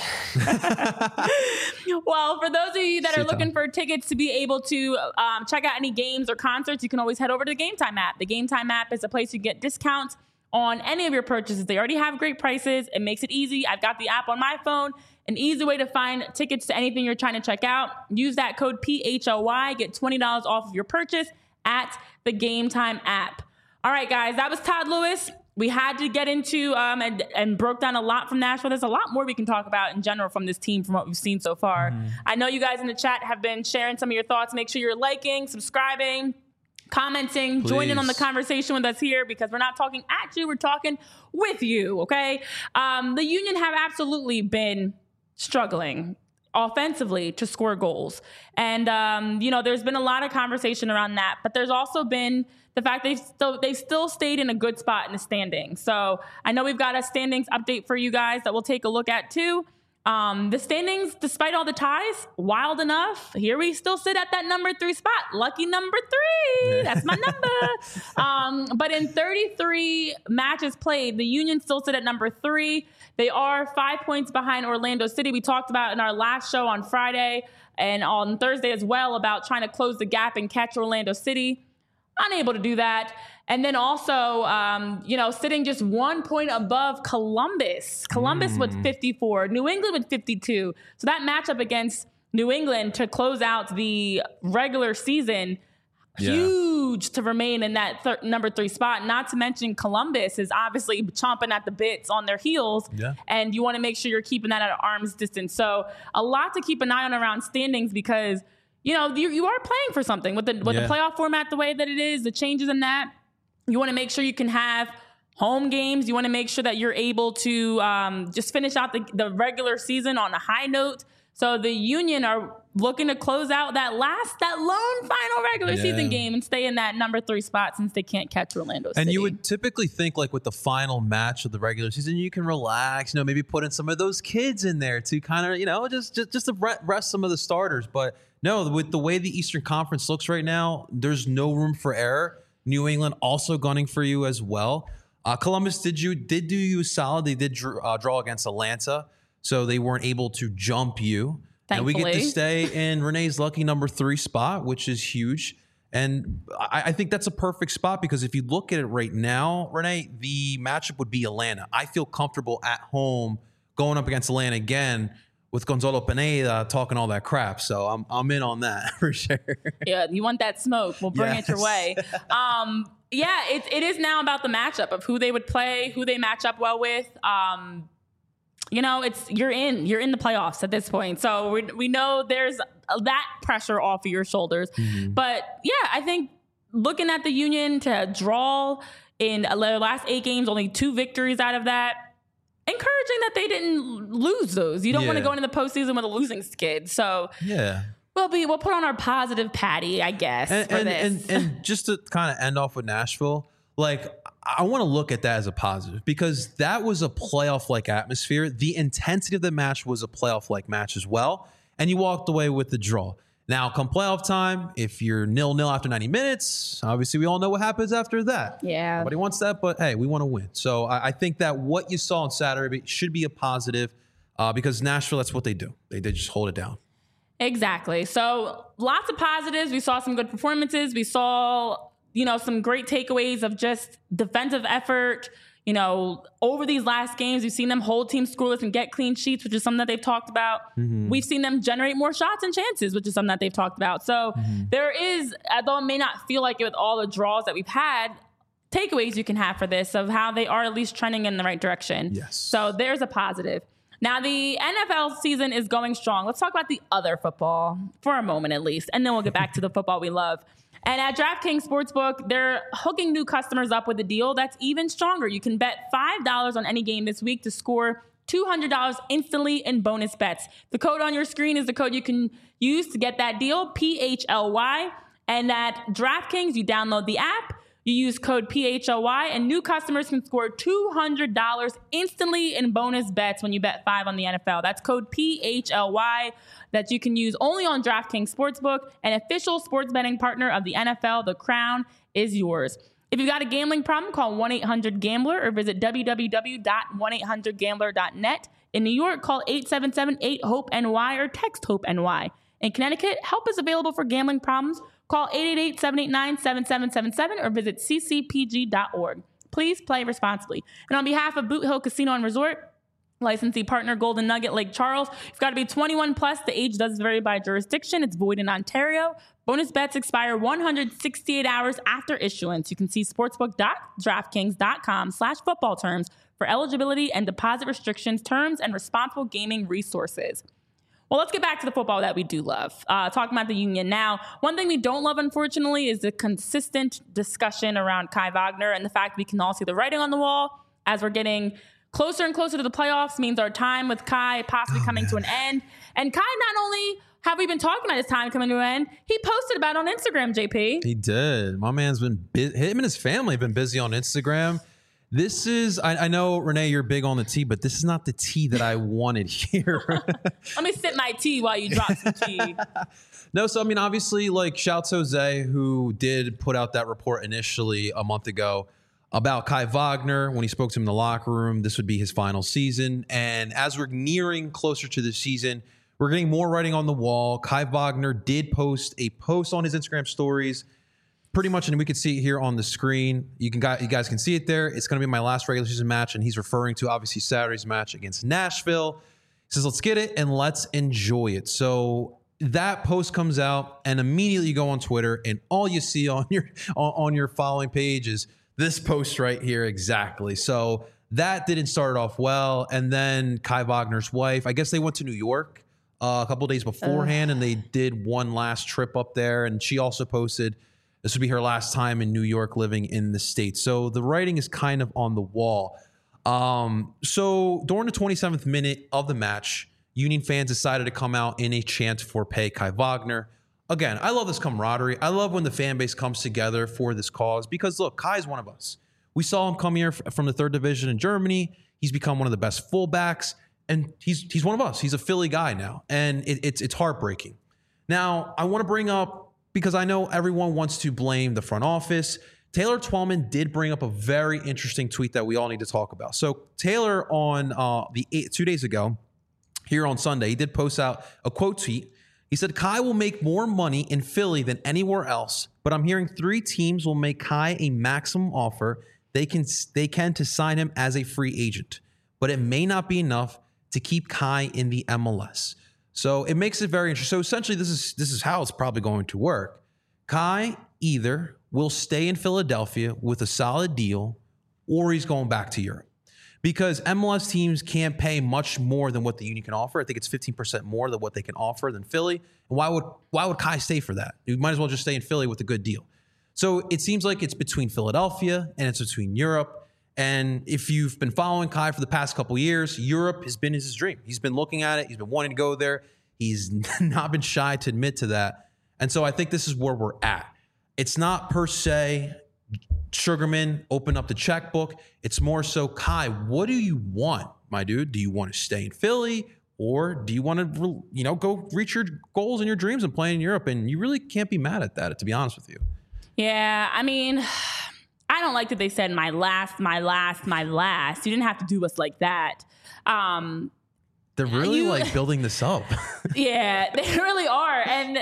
Well, for those of you that see are looking Tom. for tickets to be able to um, check out any games or concerts, you can always head over to the Game Time app. The Game Time app is a place you get discounts on any of your purchases. They already have great prices. It makes it easy. I've got the app on my phone. An easy way to find tickets to anything you're trying to check out. Use that code P H O Y. Get twenty dollars off of your purchase at the Game Time app. All right, guys, that was Todd Lewis. We had to get into um, and, and broke down a lot from Nashville. There's a lot more we can talk about in general from this team from what we've seen so far. Mm-hmm. I know you guys in the chat have been sharing some of your thoughts. Make sure you're liking, subscribing, commenting, Please. joining on the conversation with us here, because we're not talking at you, we're talking with you, okay? Um, the Union have absolutely been struggling offensively to score goals. And, um, you know, there's been a lot of conversation around that, but there's also been the fact they've still, they've still stayed in a good spot in the standings. So I know we've got a standings update for you guys that we'll take a look at too. Um, the standings, despite all the ties, wild enough. Here we still sit at that number three spot. Lucky number three. That's my number. um, but in thirty-three matches played, the Union still sit at number three. They are five points behind Orlando City. We talked about in our last show on Friday and on Thursday as well about trying to close the gap and catch Orlando City. Unable to do that. And then also, um, you know, sitting just one point above Columbus. Columbus mm. with fifty-four, New England with fifty-two. So that matchup against New England to close out the regular season, yeah. huge to remain in that th- number three spot. Not to mention Columbus is obviously chomping at the bits on their heels. Yeah. And you want to make sure you're keeping that at arm's distance. So a lot to keep an eye on around standings, because you know, you, you are playing for something with the with yeah. the playoff format the way that it is, the changes in that. You want to make sure you can have home games. You want to make sure that you're able to um, just finish out the, the regular season on a high note. So the Union are looking to close out that last, that lone final regular yeah. season game and stay in that number three spot since they can't catch Orlando City. And you would typically think, like, with the final match of the regular season, you can relax, you know, maybe put in some of those kids in there to kind of, you know, just, just, just to rest some of the starters. But no, with the way the Eastern Conference looks right now, there's no room for error. New England also gunning for you as well. Uh, Columbus did you did do you solid. They did dr- uh, draw against Atlanta, so they weren't able to jump you. Thankfully. And we get to stay in Renee's lucky number three spot, which is huge. And I, I think that's a perfect spot, because if you look at it right now, Renee, the matchup would be Atlanta. I feel comfortable at home going up against Atlanta again, with Gonzalo Pineda talking all that crap. So I'm I'm in on that for sure. Yeah, you want that smoke. We'll bring yes. it your way. Um, yeah, it, it is now about the matchup of who they would play, who they match up well with. Um, you know, it's you're in. You're in the playoffs at this point. So we, we know there's that pressure off of your shoulders. Mm-hmm. But, yeah, I think looking at the Union to draw in their last eight games, only two victories out of that, encouraging that they didn't lose those. You don't yeah. want to go into the postseason with a losing skid. So yeah, we'll be we'll put on our positive patty, I guess. And for and, this. and and just to kind of end off with Nashville, like I want to look at that as a positive, because that was a playoff like atmosphere. The intensity of the match was a playoff like match as well, and you walked away with the draw. Now, come playoff time, if you're nil-nil after ninety minutes, obviously we all know what happens after that. Yeah. Nobody wants that, but hey, we want to win. So I, I think that what you saw on Saturday should be a positive, uh, because Nashville, that's what they do. They, they just hold it down. Exactly. So lots of positives. We saw some good performances. We saw, you know, some great takeaways of just defensive effort. You know, over these last games, we've seen them hold teams scoreless and get clean sheets, which is something that they've talked about. Mm-hmm. We've seen them generate more shots and chances, which is something that they've talked about. So mm-hmm. there is, although it may not feel like it with all the draws that we've had, takeaways you can have for this of how they are at least trending in the right direction. Yes. So there's a positive. Now, the N F L season is going strong. Let's talk about the other football for a moment at least, and then we'll get back to the football we love. And at DraftKings Sportsbook, they're hooking new customers up with a deal that's even stronger. You can bet five dollars on any game this week to score two hundred dollars instantly in bonus bets. The code on your screen is the code you can use to get that deal, P H L Y. And at DraftKings, you download the app, you use code P H L Y, and new customers can score two hundred dollars instantly in bonus bets when you bet five on the N F L. That's code P H L Y that you can use only on DraftKings Sportsbook, an official sports betting partner of the N F L. The crown is yours. If you've got a gambling problem, call one eight hundred gambler or visit w w w dot one eight hundred gambler dot net. In New York, call eight seven seven eight hope N Y or text HOPE-N-Y. In Connecticut, help is available for gambling problems. Call eight eight eight, seven eight nine, seven seven seven seven or visit c c p g dot org. Please play responsibly. And on behalf of Boot Hill Casino and Resort, licensee partner Golden Nugget Lake Charles, you've got to be twenty-one plus. The age does vary by jurisdiction. It's void in Ontario. Bonus bets expire one hundred sixty-eight hours after issuance. You can see sportsbook dot draftkings dot com slash football terms for eligibility and deposit restrictions, terms, and responsible gaming resources. Well, let's get back to the football that we do love. Uh, talking about the Union now, one thing we don't love, unfortunately, is the consistent discussion around Kai Wagner and the fact we can all see the writing on the wall as we're getting closer and closer to the playoffs means our time with Kai possibly oh, coming man. to an end. And Kai, not only have we been talking about his time coming to an end, he posted about it on Instagram, J P. He did. My man's been, bu- him and his family have been busy on Instagram. This is, I, I know, Renee, you're big on the tea, but this is not the tea that I wanted here. Let me sip my tea while you drop some tea. No, so I mean, obviously, like, shouts Jose, who did put out that report initially a month ago about Kai Wagner when he spoke to him in the locker room. This would be his final season. And as we're nearing closer to the season, we're getting more writing on the wall. Kai Wagner did post a post on his Instagram stories, pretty much, and we can see it here on the screen. You can, you guys can see it there. It's going to be my last regular season match, and he's referring to, obviously, Saturday's match against Nashville. He says, let's get it, and let's enjoy it. So that post comes out, and immediately you go on Twitter, and all you see on your on, on your following page is this post right here exactly. So that didn't start off well, and then Kai Wagner's wife, I guess they went to New York uh, a couple days beforehand, uh. and they did one last trip up there, and she also posted this would be her last time in New York living in the States. So the writing is kind of on the wall. Um, so during the twenty-seventh minute of the match, Union fans decided to come out in a chant for Pay Kai Wagner. Again, I love this camaraderie. I love when the fan base comes together for this cause because, look, Kai is one of us. We saw him come here from the third division in Germany. He's become one of the best fullbacks, and he's he's one of us. He's a Philly guy now, and it, it's it's heartbreaking. Now, I want to bring up, because I know everyone wants to blame the front office, Taylor Twellman did bring up a very interesting tweet that we all need to talk about. So Taylor, on uh, the eight, two days ago, here on Sunday, he did post out a quote tweet. He said, Kai will make more money in Philly than anywhere else, but I'm hearing three teams will make Kai a maximum offer they can they can to sign him as a free agent, but it may not be enough to keep Kai in the M L S. So it makes it very interesting. So essentially, this is this is how it's probably going to work. Kai either will stay in Philadelphia with a solid deal, or he's going back to Europe. Because M L S teams can't pay much more than what the Union can offer. I think it's fifteen percent more than what they can offer than Philly. And why would why would Kai stay for that? You might as well just stay in Philly with a good deal. So it seems like it's between Philadelphia and it's between Europe. And if you've been following Kai for the past couple years, Europe has been his dream. He's been looking at it. He's been wanting to go there. He's not been shy to admit to that. And so I think this is where we're at. It's not per se Sugarman, open up the checkbook. It's more so, Kai, what do you want, my dude? Do you want to stay in Philly, or do you want to, you know, go reach your goals and your dreams and play in Europe? And you really can't be mad at that, to be honest with you. Yeah, I mean, I don't like that they said my last, my last, my last. You didn't have to do us like that. Um, They're really you, like building this up. Yeah, they really are. And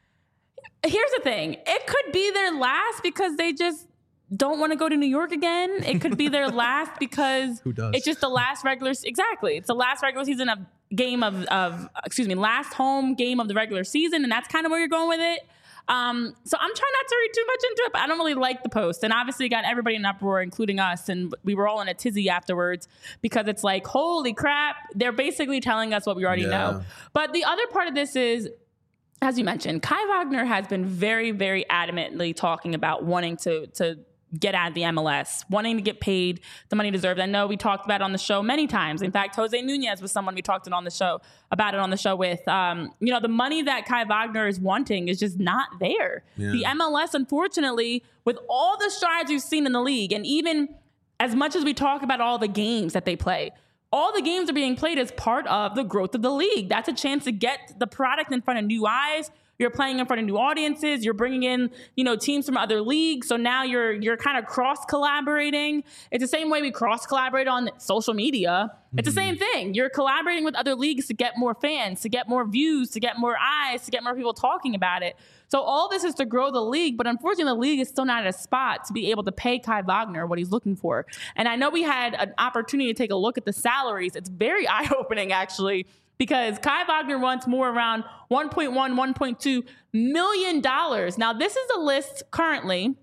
here's the thing. It could be their last because they just don't want to go to New York again. It could be their last because Who does? It's just the last regular. Exactly. It's the last regular season of game of, of, excuse me, last home game of the regular season. And that's kind of where you're going with it. Um, so I'm trying not to read too much into it, but I don't really like the post. And obviously it got everybody in an uproar, including us. And we were all in a tizzy afterwards because it's like, holy crap, they're basically telling us what we already yeah. know. But the other part of this is, as you mentioned, Kai Wagner has been very, very adamantly talking about wanting to to get out of the M L S, wanting to get paid the money deserved. I know we talked about it on the show many times. In fact, Jose Nunez was someone we talked it on the show about it on the show with. Um, you know, the money that Kai Wagner is wanting is just not there. Yeah. The M L S, unfortunately, with all the strides we've seen in the league, and even as much as we talk about all the games that they play, all the games are being played as part of the growth of the league. That's a chance to get the product in front of new eyes. You're playing in front of new audiences. You're bringing in, you know, teams from other leagues. So now you're you're kind of cross collaborating. It's the same way we cross collaborate on social media. Mm-hmm. It's the same thing. You're collaborating with other leagues to get more fans, to get more views, to get more eyes, to get more people talking about it. So all this is to grow the league, but unfortunately the league is still not at a spot to be able to pay Kai Wagner what he's looking for. And I know we had an opportunity to take a look at the salaries. It's very eye-opening, actually, because Kai Wagner wants more around one point one, one point two million dollars. Now, this is a list currently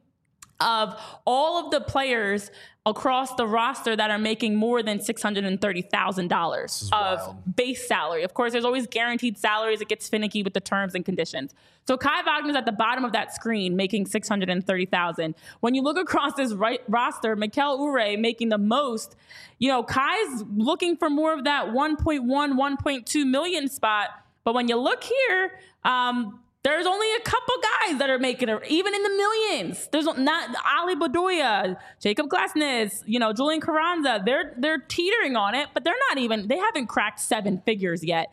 of all of the players across the roster that are making more than six hundred thirty thousand dollars of wild. Base salary. Of course, there's always guaranteed salaries. It gets finicky with the terms and conditions. So Kai Wagner's at the bottom of that screen making six hundred thirty thousand dollars. When you look across this right roster, Mikel Ure making the most, you know, Kai's looking for more of that one point one, one point two million spot. But when you look here, um, there's only a couple guys that are making it, even in the millions. There's not Ali Bedoya, Jacob Glasnes, you know, Julian Carranza. They're they're teetering on it, but they're not even. They haven't cracked seven figures yet.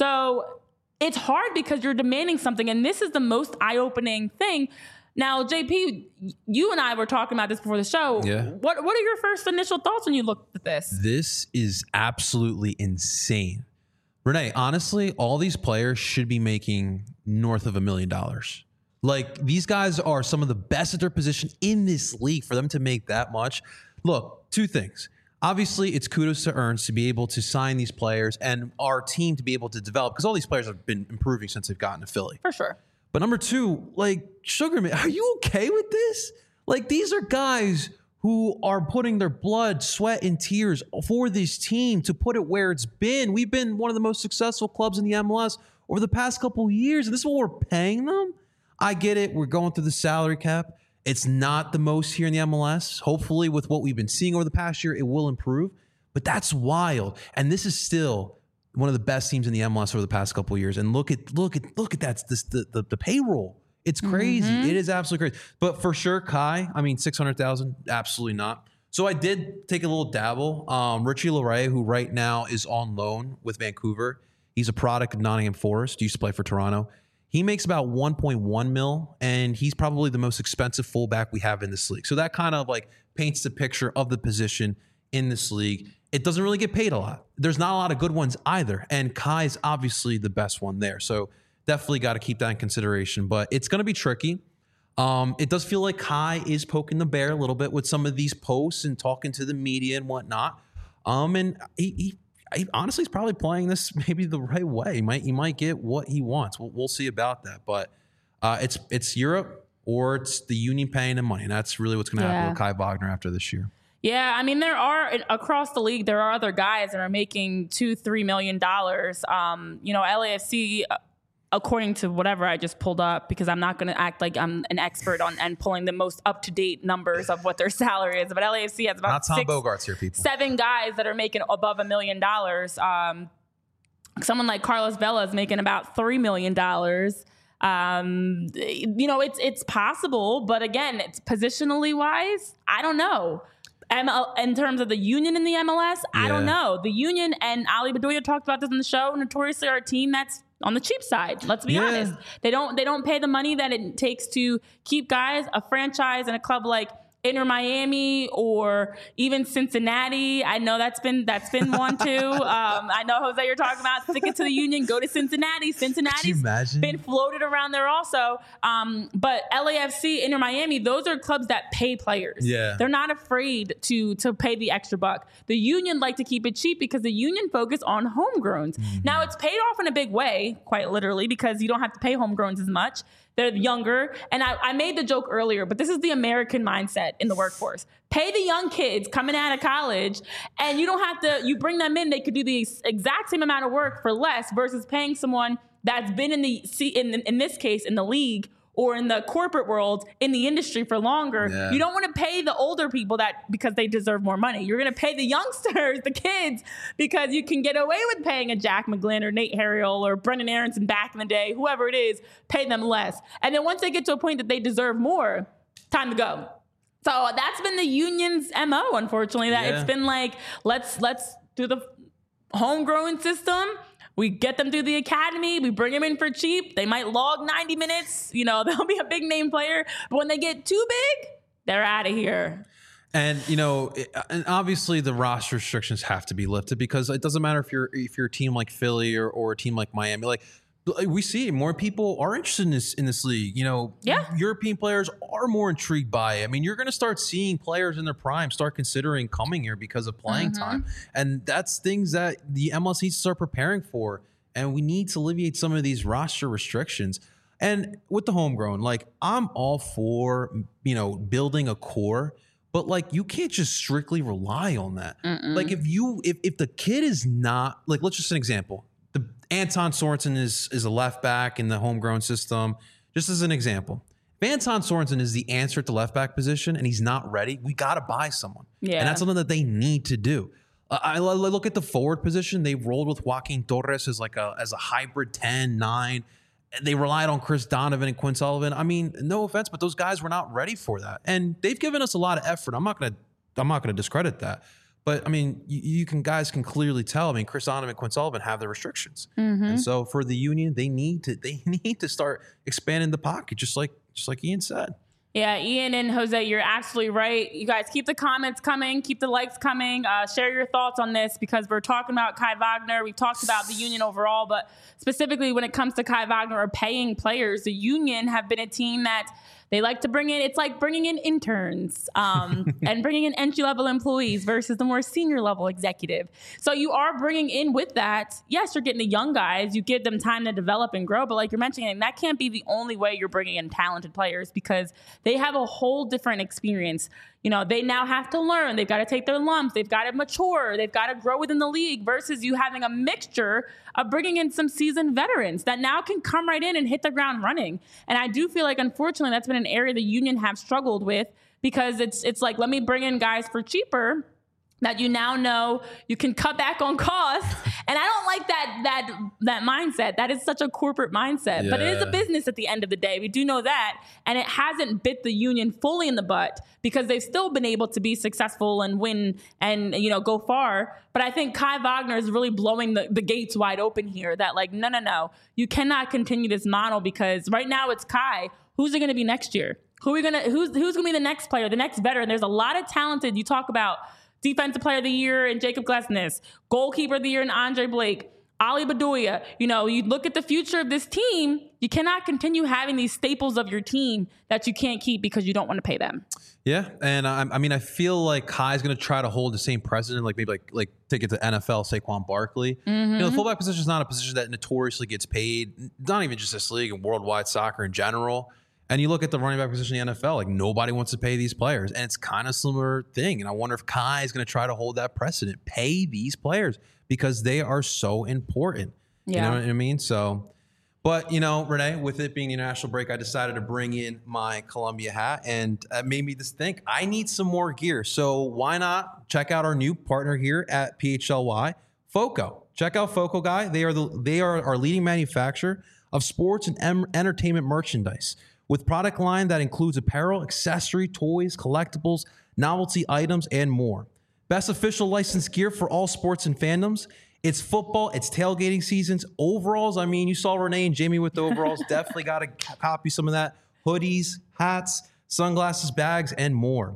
So it's hard because you're demanding something, and this is the most eye-opening thing. Now, J P, you and I were talking about this before the show. Yeah. What What are your first initial thoughts when you looked at this? This is absolutely insane. Renee, honestly, all these players should be making north of a million dollars. Like, these guys are some of the best at their position in this league. For them to make that much, look, two things. Obviously, it's kudos to Ernst to be able to sign these players and our team to be able to develop, because all these players have been improving since they've gotten to Philly. For sure. But number two, like, Sugarman, are you okay with this? Like, these are guys who are putting their blood, sweat, and tears for this team to put it where it's been. We've been one of the most successful clubs in the M L S over the past couple of years, and this is what we're paying them? I get it. We're going through the salary cap. It's not the most here in the M L S. Hopefully, with what we've been seeing over the past year, it will improve. But that's wild. And this is still one of the best teams in the M L S over the past couple of years. And look at look at look at that. This the the, the payroll. It's crazy. Mm-hmm. It is absolutely crazy. But for sure, Kai, I mean, six hundred thousand, absolutely not. So I did take a little dabble. Um, Richie Laryea, who right now is on loan with Vancouver, he's a product of Nottingham Forest, used to play for Toronto. He makes about one point one mil, and he's probably the most expensive fullback we have in this league. So that kind of like paints the picture of the position in this league. It doesn't really get paid a lot. There's not a lot of good ones either. And Kai is obviously the best one there. So definitely got to keep that in consideration, but it's going to be tricky. Um, it does feel like Kai is poking the bear a little bit with some of these posts and talking to the media and whatnot. Um, and he, he, he honestly is probably playing this maybe the right way. He might, he might get what he wants. We'll, we'll see about that. But uh, it's it's Europe or it's the union paying him money. And that's really what's going to yeah. happen with Kai Wagner after this year. Yeah, I mean, there are across the league, there are other guys that are making two, three million dollars. Um, you know, L A F C. According to whatever I just pulled up, because I'm not going to act like I'm an expert on and pulling the most up-to-date numbers of what their salary is. But L A F C has about not Tom six, Bogart's here, people. seven guys that are making above a million dollars. Um, someone like Carlos Vela is making about three million dollars. Um, you know, it's it's possible, but again, it's positionally wise. I don't know. M L, in terms of the union in the M L S, yeah. I don't know. The union, and Ali Bedoya talked about this in the show, notoriously are a team that's on the cheap side. Let's be yeah. honest. They don't they don't pay the money that it takes to keep guys. A franchise and a club like Inter Miami or even Cincinnati. I know that's been that's been one too. Um, I know, Jose, you're talking about stick it to the Union, go to Cincinnati. Cincinnati's been floated around there also. Um, but L A F C, Inter Miami, those are clubs that pay players. Yeah. They're not afraid to to pay the extra buck. The Union like to keep it cheap because the Union focus on homegrowns. Mm-hmm. Now it's paid off in a big way, quite literally, because you don't have to pay homegrowns as much. They're younger. And I, I made the joke earlier, but this is the American mindset in the workforce. Pay the young kids coming out of college, and you don't have to, you bring them in, they could do the exact same amount of work for less versus paying someone that's been in the, in, in this case, in the league or in the corporate world, in the industry for longer. Yeah. You don't want to pay the older people that because they deserve more money. You're going to pay the youngsters, the kids, because you can get away with paying a Jack McGlynn or Nate Harriel or Brendan Aronson back in the day, whoever it is, pay them less. And then once they get to a point that they deserve more, time to go. So that's been the Union's M O, unfortunately, that yeah. it's been like, let's let's do the homegrown system. We get them through the academy. We bring them in for cheap. They might log ninety minutes. You know, they'll be a big name player. But when they get too big, they're out of here. And, you know, and obviously the roster restrictions have to be lifted because it doesn't matter if you're if you're a team like Philly or, or a team like Miami. Like, we see more people are interested in this in this league. You know, yeah. European players are more intrigued by it. I mean, you're going to start seeing players in their prime start considering coming here because of playing mm-hmm. time. And that's things that the M L S needs to start preparing for. And we need to alleviate some of these roster restrictions. And with the homegrown, like, I'm all for, you know, building a core. But, like, you can't just strictly rely on that. Mm-mm. Like, if you if, if the kid is not, like, let's just an example. The Anton Sorensen is is a left back in the homegrown system. Just as an example, if Anton Sorensen is the answer at the left back position and he's not ready, we got to buy someone. Yeah. And that's something that they need to do. Uh, I, I look at the forward position. They rolled with Joaquin Torres as like a as a hybrid ten, nine. They relied on Chris Donovan and Quinn Sullivan. I mean, no offense, but those guys were not ready for that. And they've given us a lot of effort. I'm not gonna I'm not gonna discredit that. But, I mean, you, you can guys can clearly tell. I mean, Chris Donovan and Quinn Sullivan have their restrictions. Mm-hmm. And so for the Union, they need to they need to start expanding the pocket, just like just like Ian said. Yeah, Ian and Jose, you're absolutely right. You guys keep the comments coming, keep the likes coming. Uh, share your thoughts on this because we're talking about Kai Wagner. We've talked about the Union overall, but specifically when it comes to Kai Wagner or paying players, the Union have been a team that they like to bring in, it's like bringing in interns um, and bringing in entry-level employees versus the more senior-level executive. So you are bringing in with that, yes, you're getting the young guys, you give them time to develop and grow, but like you're mentioning, that can't be the only way you're bringing in talented players because they have a whole different experience. You know, they now have to learn. They've got to take their lumps. They've got to mature. They've got to grow within the league versus you having a mixture of bringing in some seasoned veterans that now can come right in and hit the ground running. And I do feel like, unfortunately, that's been an area the Union have struggled with because it's it's like, let me bring in guys for cheaper that you now know you can cut back on costs. And I don't like that that that mindset. That is such a corporate mindset. Yeah. But it is a business at the end of the day. We do know that. And it hasn't bit the Union fully in the butt because they've still been able to be successful and win and, you know, go far. But I think Kai Wagner is really blowing the, the gates wide open here that, like, no, no, no. You cannot continue this model because right now it's Kai. Who's it going to be next year? Who are we gonna, who's, who's going to be the next player, the next veteran? There's a lot of talented, you talk about Defensive Player of the Year in Jacob Glesnes, Goalkeeper of the Year in Andre Blake, Ali Bedoya. You know, you look at the future of this team, you cannot continue having these staples of your team that you can't keep because you don't want to pay them. Yeah, and I, I mean, I feel like Kai's going to try to hold the same precedent, like maybe like like take it to N F L, Saquon Barkley. Mm-hmm. You know, the fullback position is not a position that notoriously gets paid, not even just this league and worldwide soccer in general. And you look at the running back position in the N F L, like nobody wants to pay these players. And it's kind of similar thing. And I wonder if Kai is going to try to hold that precedent, pay these players because they are so important. Yeah. You know what I mean? So, but, you know, Renee, with it being the international break, I decided to bring in my Columbia hat and it made me just think I need some more gear. So why not check out our new partner here at P H L Y, Foco. Check out Foco, guy. They are the they are our leading manufacturer of sports and em- entertainment merchandise. With product line that includes apparel, accessory, toys, collectibles, novelty items, and more. Best official licensed gear for all sports and fandoms. It's football, it's tailgating seasons, overalls. I mean, you saw Renee and Jamie with the overalls. Definitely got to copy some of that. Hoodies, hats, sunglasses, bags, and more.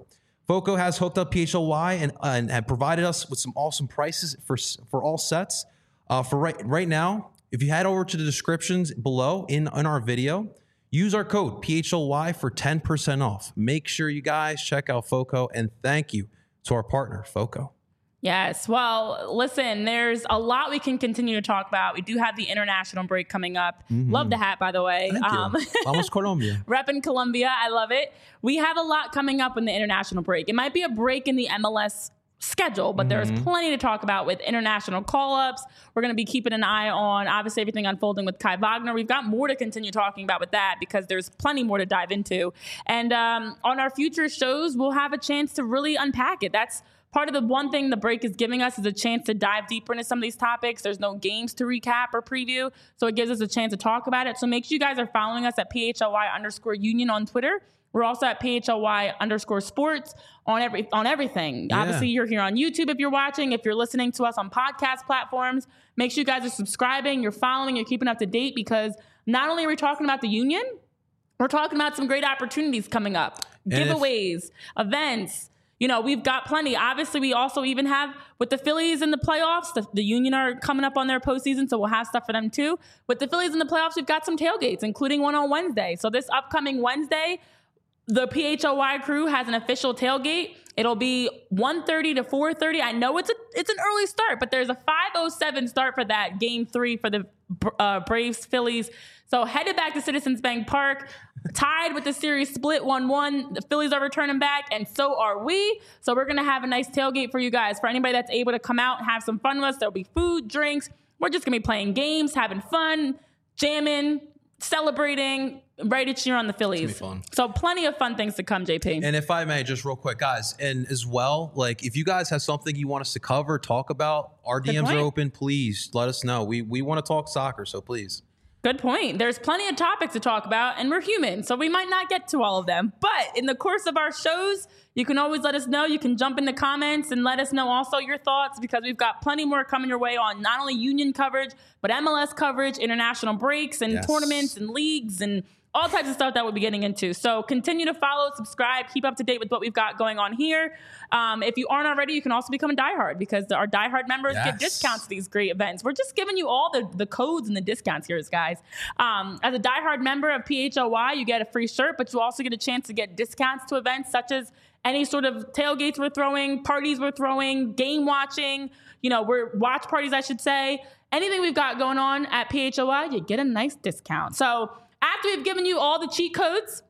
FOCO has hooked up P H L Y and, uh, and, and provided us with some awesome prices for for all sets. Uh, for right right now, if you head over to the descriptions below in, in our video, use our code P H L Y for ten percent off. Make sure you guys check out FOCO, and thank you to our partner, FOCO. Yes. Well, listen, there's a lot we can continue to talk about. We do have the international break coming up. Mm-hmm. Love the hat, by the way. Thank um, you. Almost Colombia. Repping Colombia. I love it. We have a lot coming up in the international break. It might be a break in the M L S schedule, but mm-hmm. there's plenty to talk about with international call-ups. We're going to be keeping an eye on, obviously, everything unfolding with Kai Wagner. We've got more to continue talking about with that because there's plenty more to dive into. And um, on our future shows, we'll have a chance to really unpack it. That's part of the one thing the break is giving us is a chance to dive deeper into some of these topics. There's no games to recap or preview, so it gives us a chance to talk about it. So make sure you guys are following us at P H L Y underscore union on Twitter. We're also at P H L Y underscore sports on every on everything. Yeah. Obviously, you're here on YouTube if you're watching. If you're listening to us on podcast platforms, make sure you guys are subscribing, you're following, you're keeping up to date, because not only are we talking about the union, we're talking about some great opportunities coming up. And Giveaways, if- events. You know, we've got plenty. Obviously, we also even have, with the Phillies in the playoffs, the, the Union are coming up on their postseason, so we'll have stuff for them too. With the Phillies in the playoffs, we've got some tailgates, including one on Wednesday. So this upcoming Wednesday, the P H L Y crew has an official tailgate. It'll be one thirty to four thirty. I know it's a it's an early start, but there's a five oh seven start for that game three for the uh, Braves Phillies. So headed back to Citizens Bank Park, tied with the series split one one. The Phillies are returning back, and so are we. So we're going to have a nice tailgate for you guys. For anybody that's able to come out and have some fun with us, there'll be food, drinks. We're just going to be playing games, having fun, jamming, celebrating, ready to cheer on the Phillies. It's gonna be fun. So plenty of fun things to come, J P. And if I may, just real quick, guys, and as well, like if you guys have something you want us to cover, talk about, our D Ms are open. Please let us know. We we want to talk soccer, so please. Good point. There's plenty of topics to talk about, and we're human, so we might not get to all of them. But in the course of our shows, you can always let us know. You can jump in the comments and let us know also your thoughts, because we've got plenty more coming your way on not only union coverage, but M L S coverage, international breaks, and yes. tournaments and leagues and all types of stuff that we'll be getting into. So continue to follow, subscribe, keep up to date with what we've got going on here. Um, if you aren't already, you can also become a diehard, because our diehard members yes. get discounts to these great events. We're just giving you all the, the codes and the discounts here, guys. Um, as a diehard member of P H L Y, you get a free shirt, but you also get a chance to get discounts to events such as any sort of tailgates we're throwing, parties we're throwing, game watching, you know, we're watch parties, I should say. Anything we've got going on at P H L Y, you get a nice discount. So after we've given you all the cheat codes,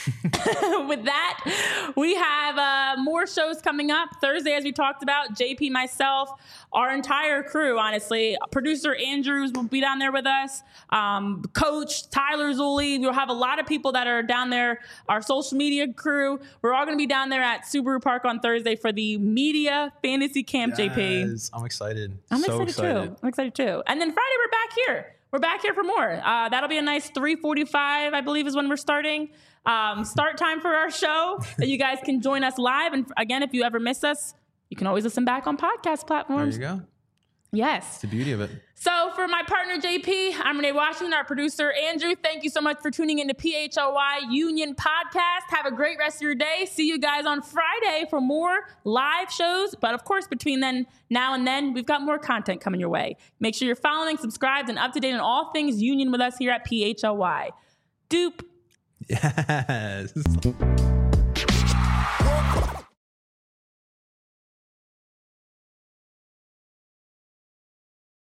with that, we have uh, more shows coming up. Thursday, as we talked about, J P, myself, our entire crew, honestly. Producer Andrews will be down there with us. Um, Coach Tyler Zulli. We'll have a lot of people that are down there. Our social media crew. We're all going to be down there at Subaru Park on Thursday for the Media Fantasy Camp, yes, J P. I'm excited. I'm so excited, excited too. I'm excited too. And then Friday, we're back here. We're back here for more. Uh, that'll be a nice three forty-five, I believe, is when we're starting. Um, start time for our show, that you guys can join us live. And again, if you ever miss us, you can always listen back on podcast platforms. There you go. Yes. It's the beauty of it. So for my partner, J P, I'm Renee Washington, our producer, Andrew. Thank you so much for tuning into P H L Y Union Podcast. Have a great rest of your day. See you guys on Friday for more live shows. But of course, between then, now and then, we've got more content coming your way. Make sure you're following, subscribed, and up to date on all things Union with us here at P H L Y. Doop. Yes.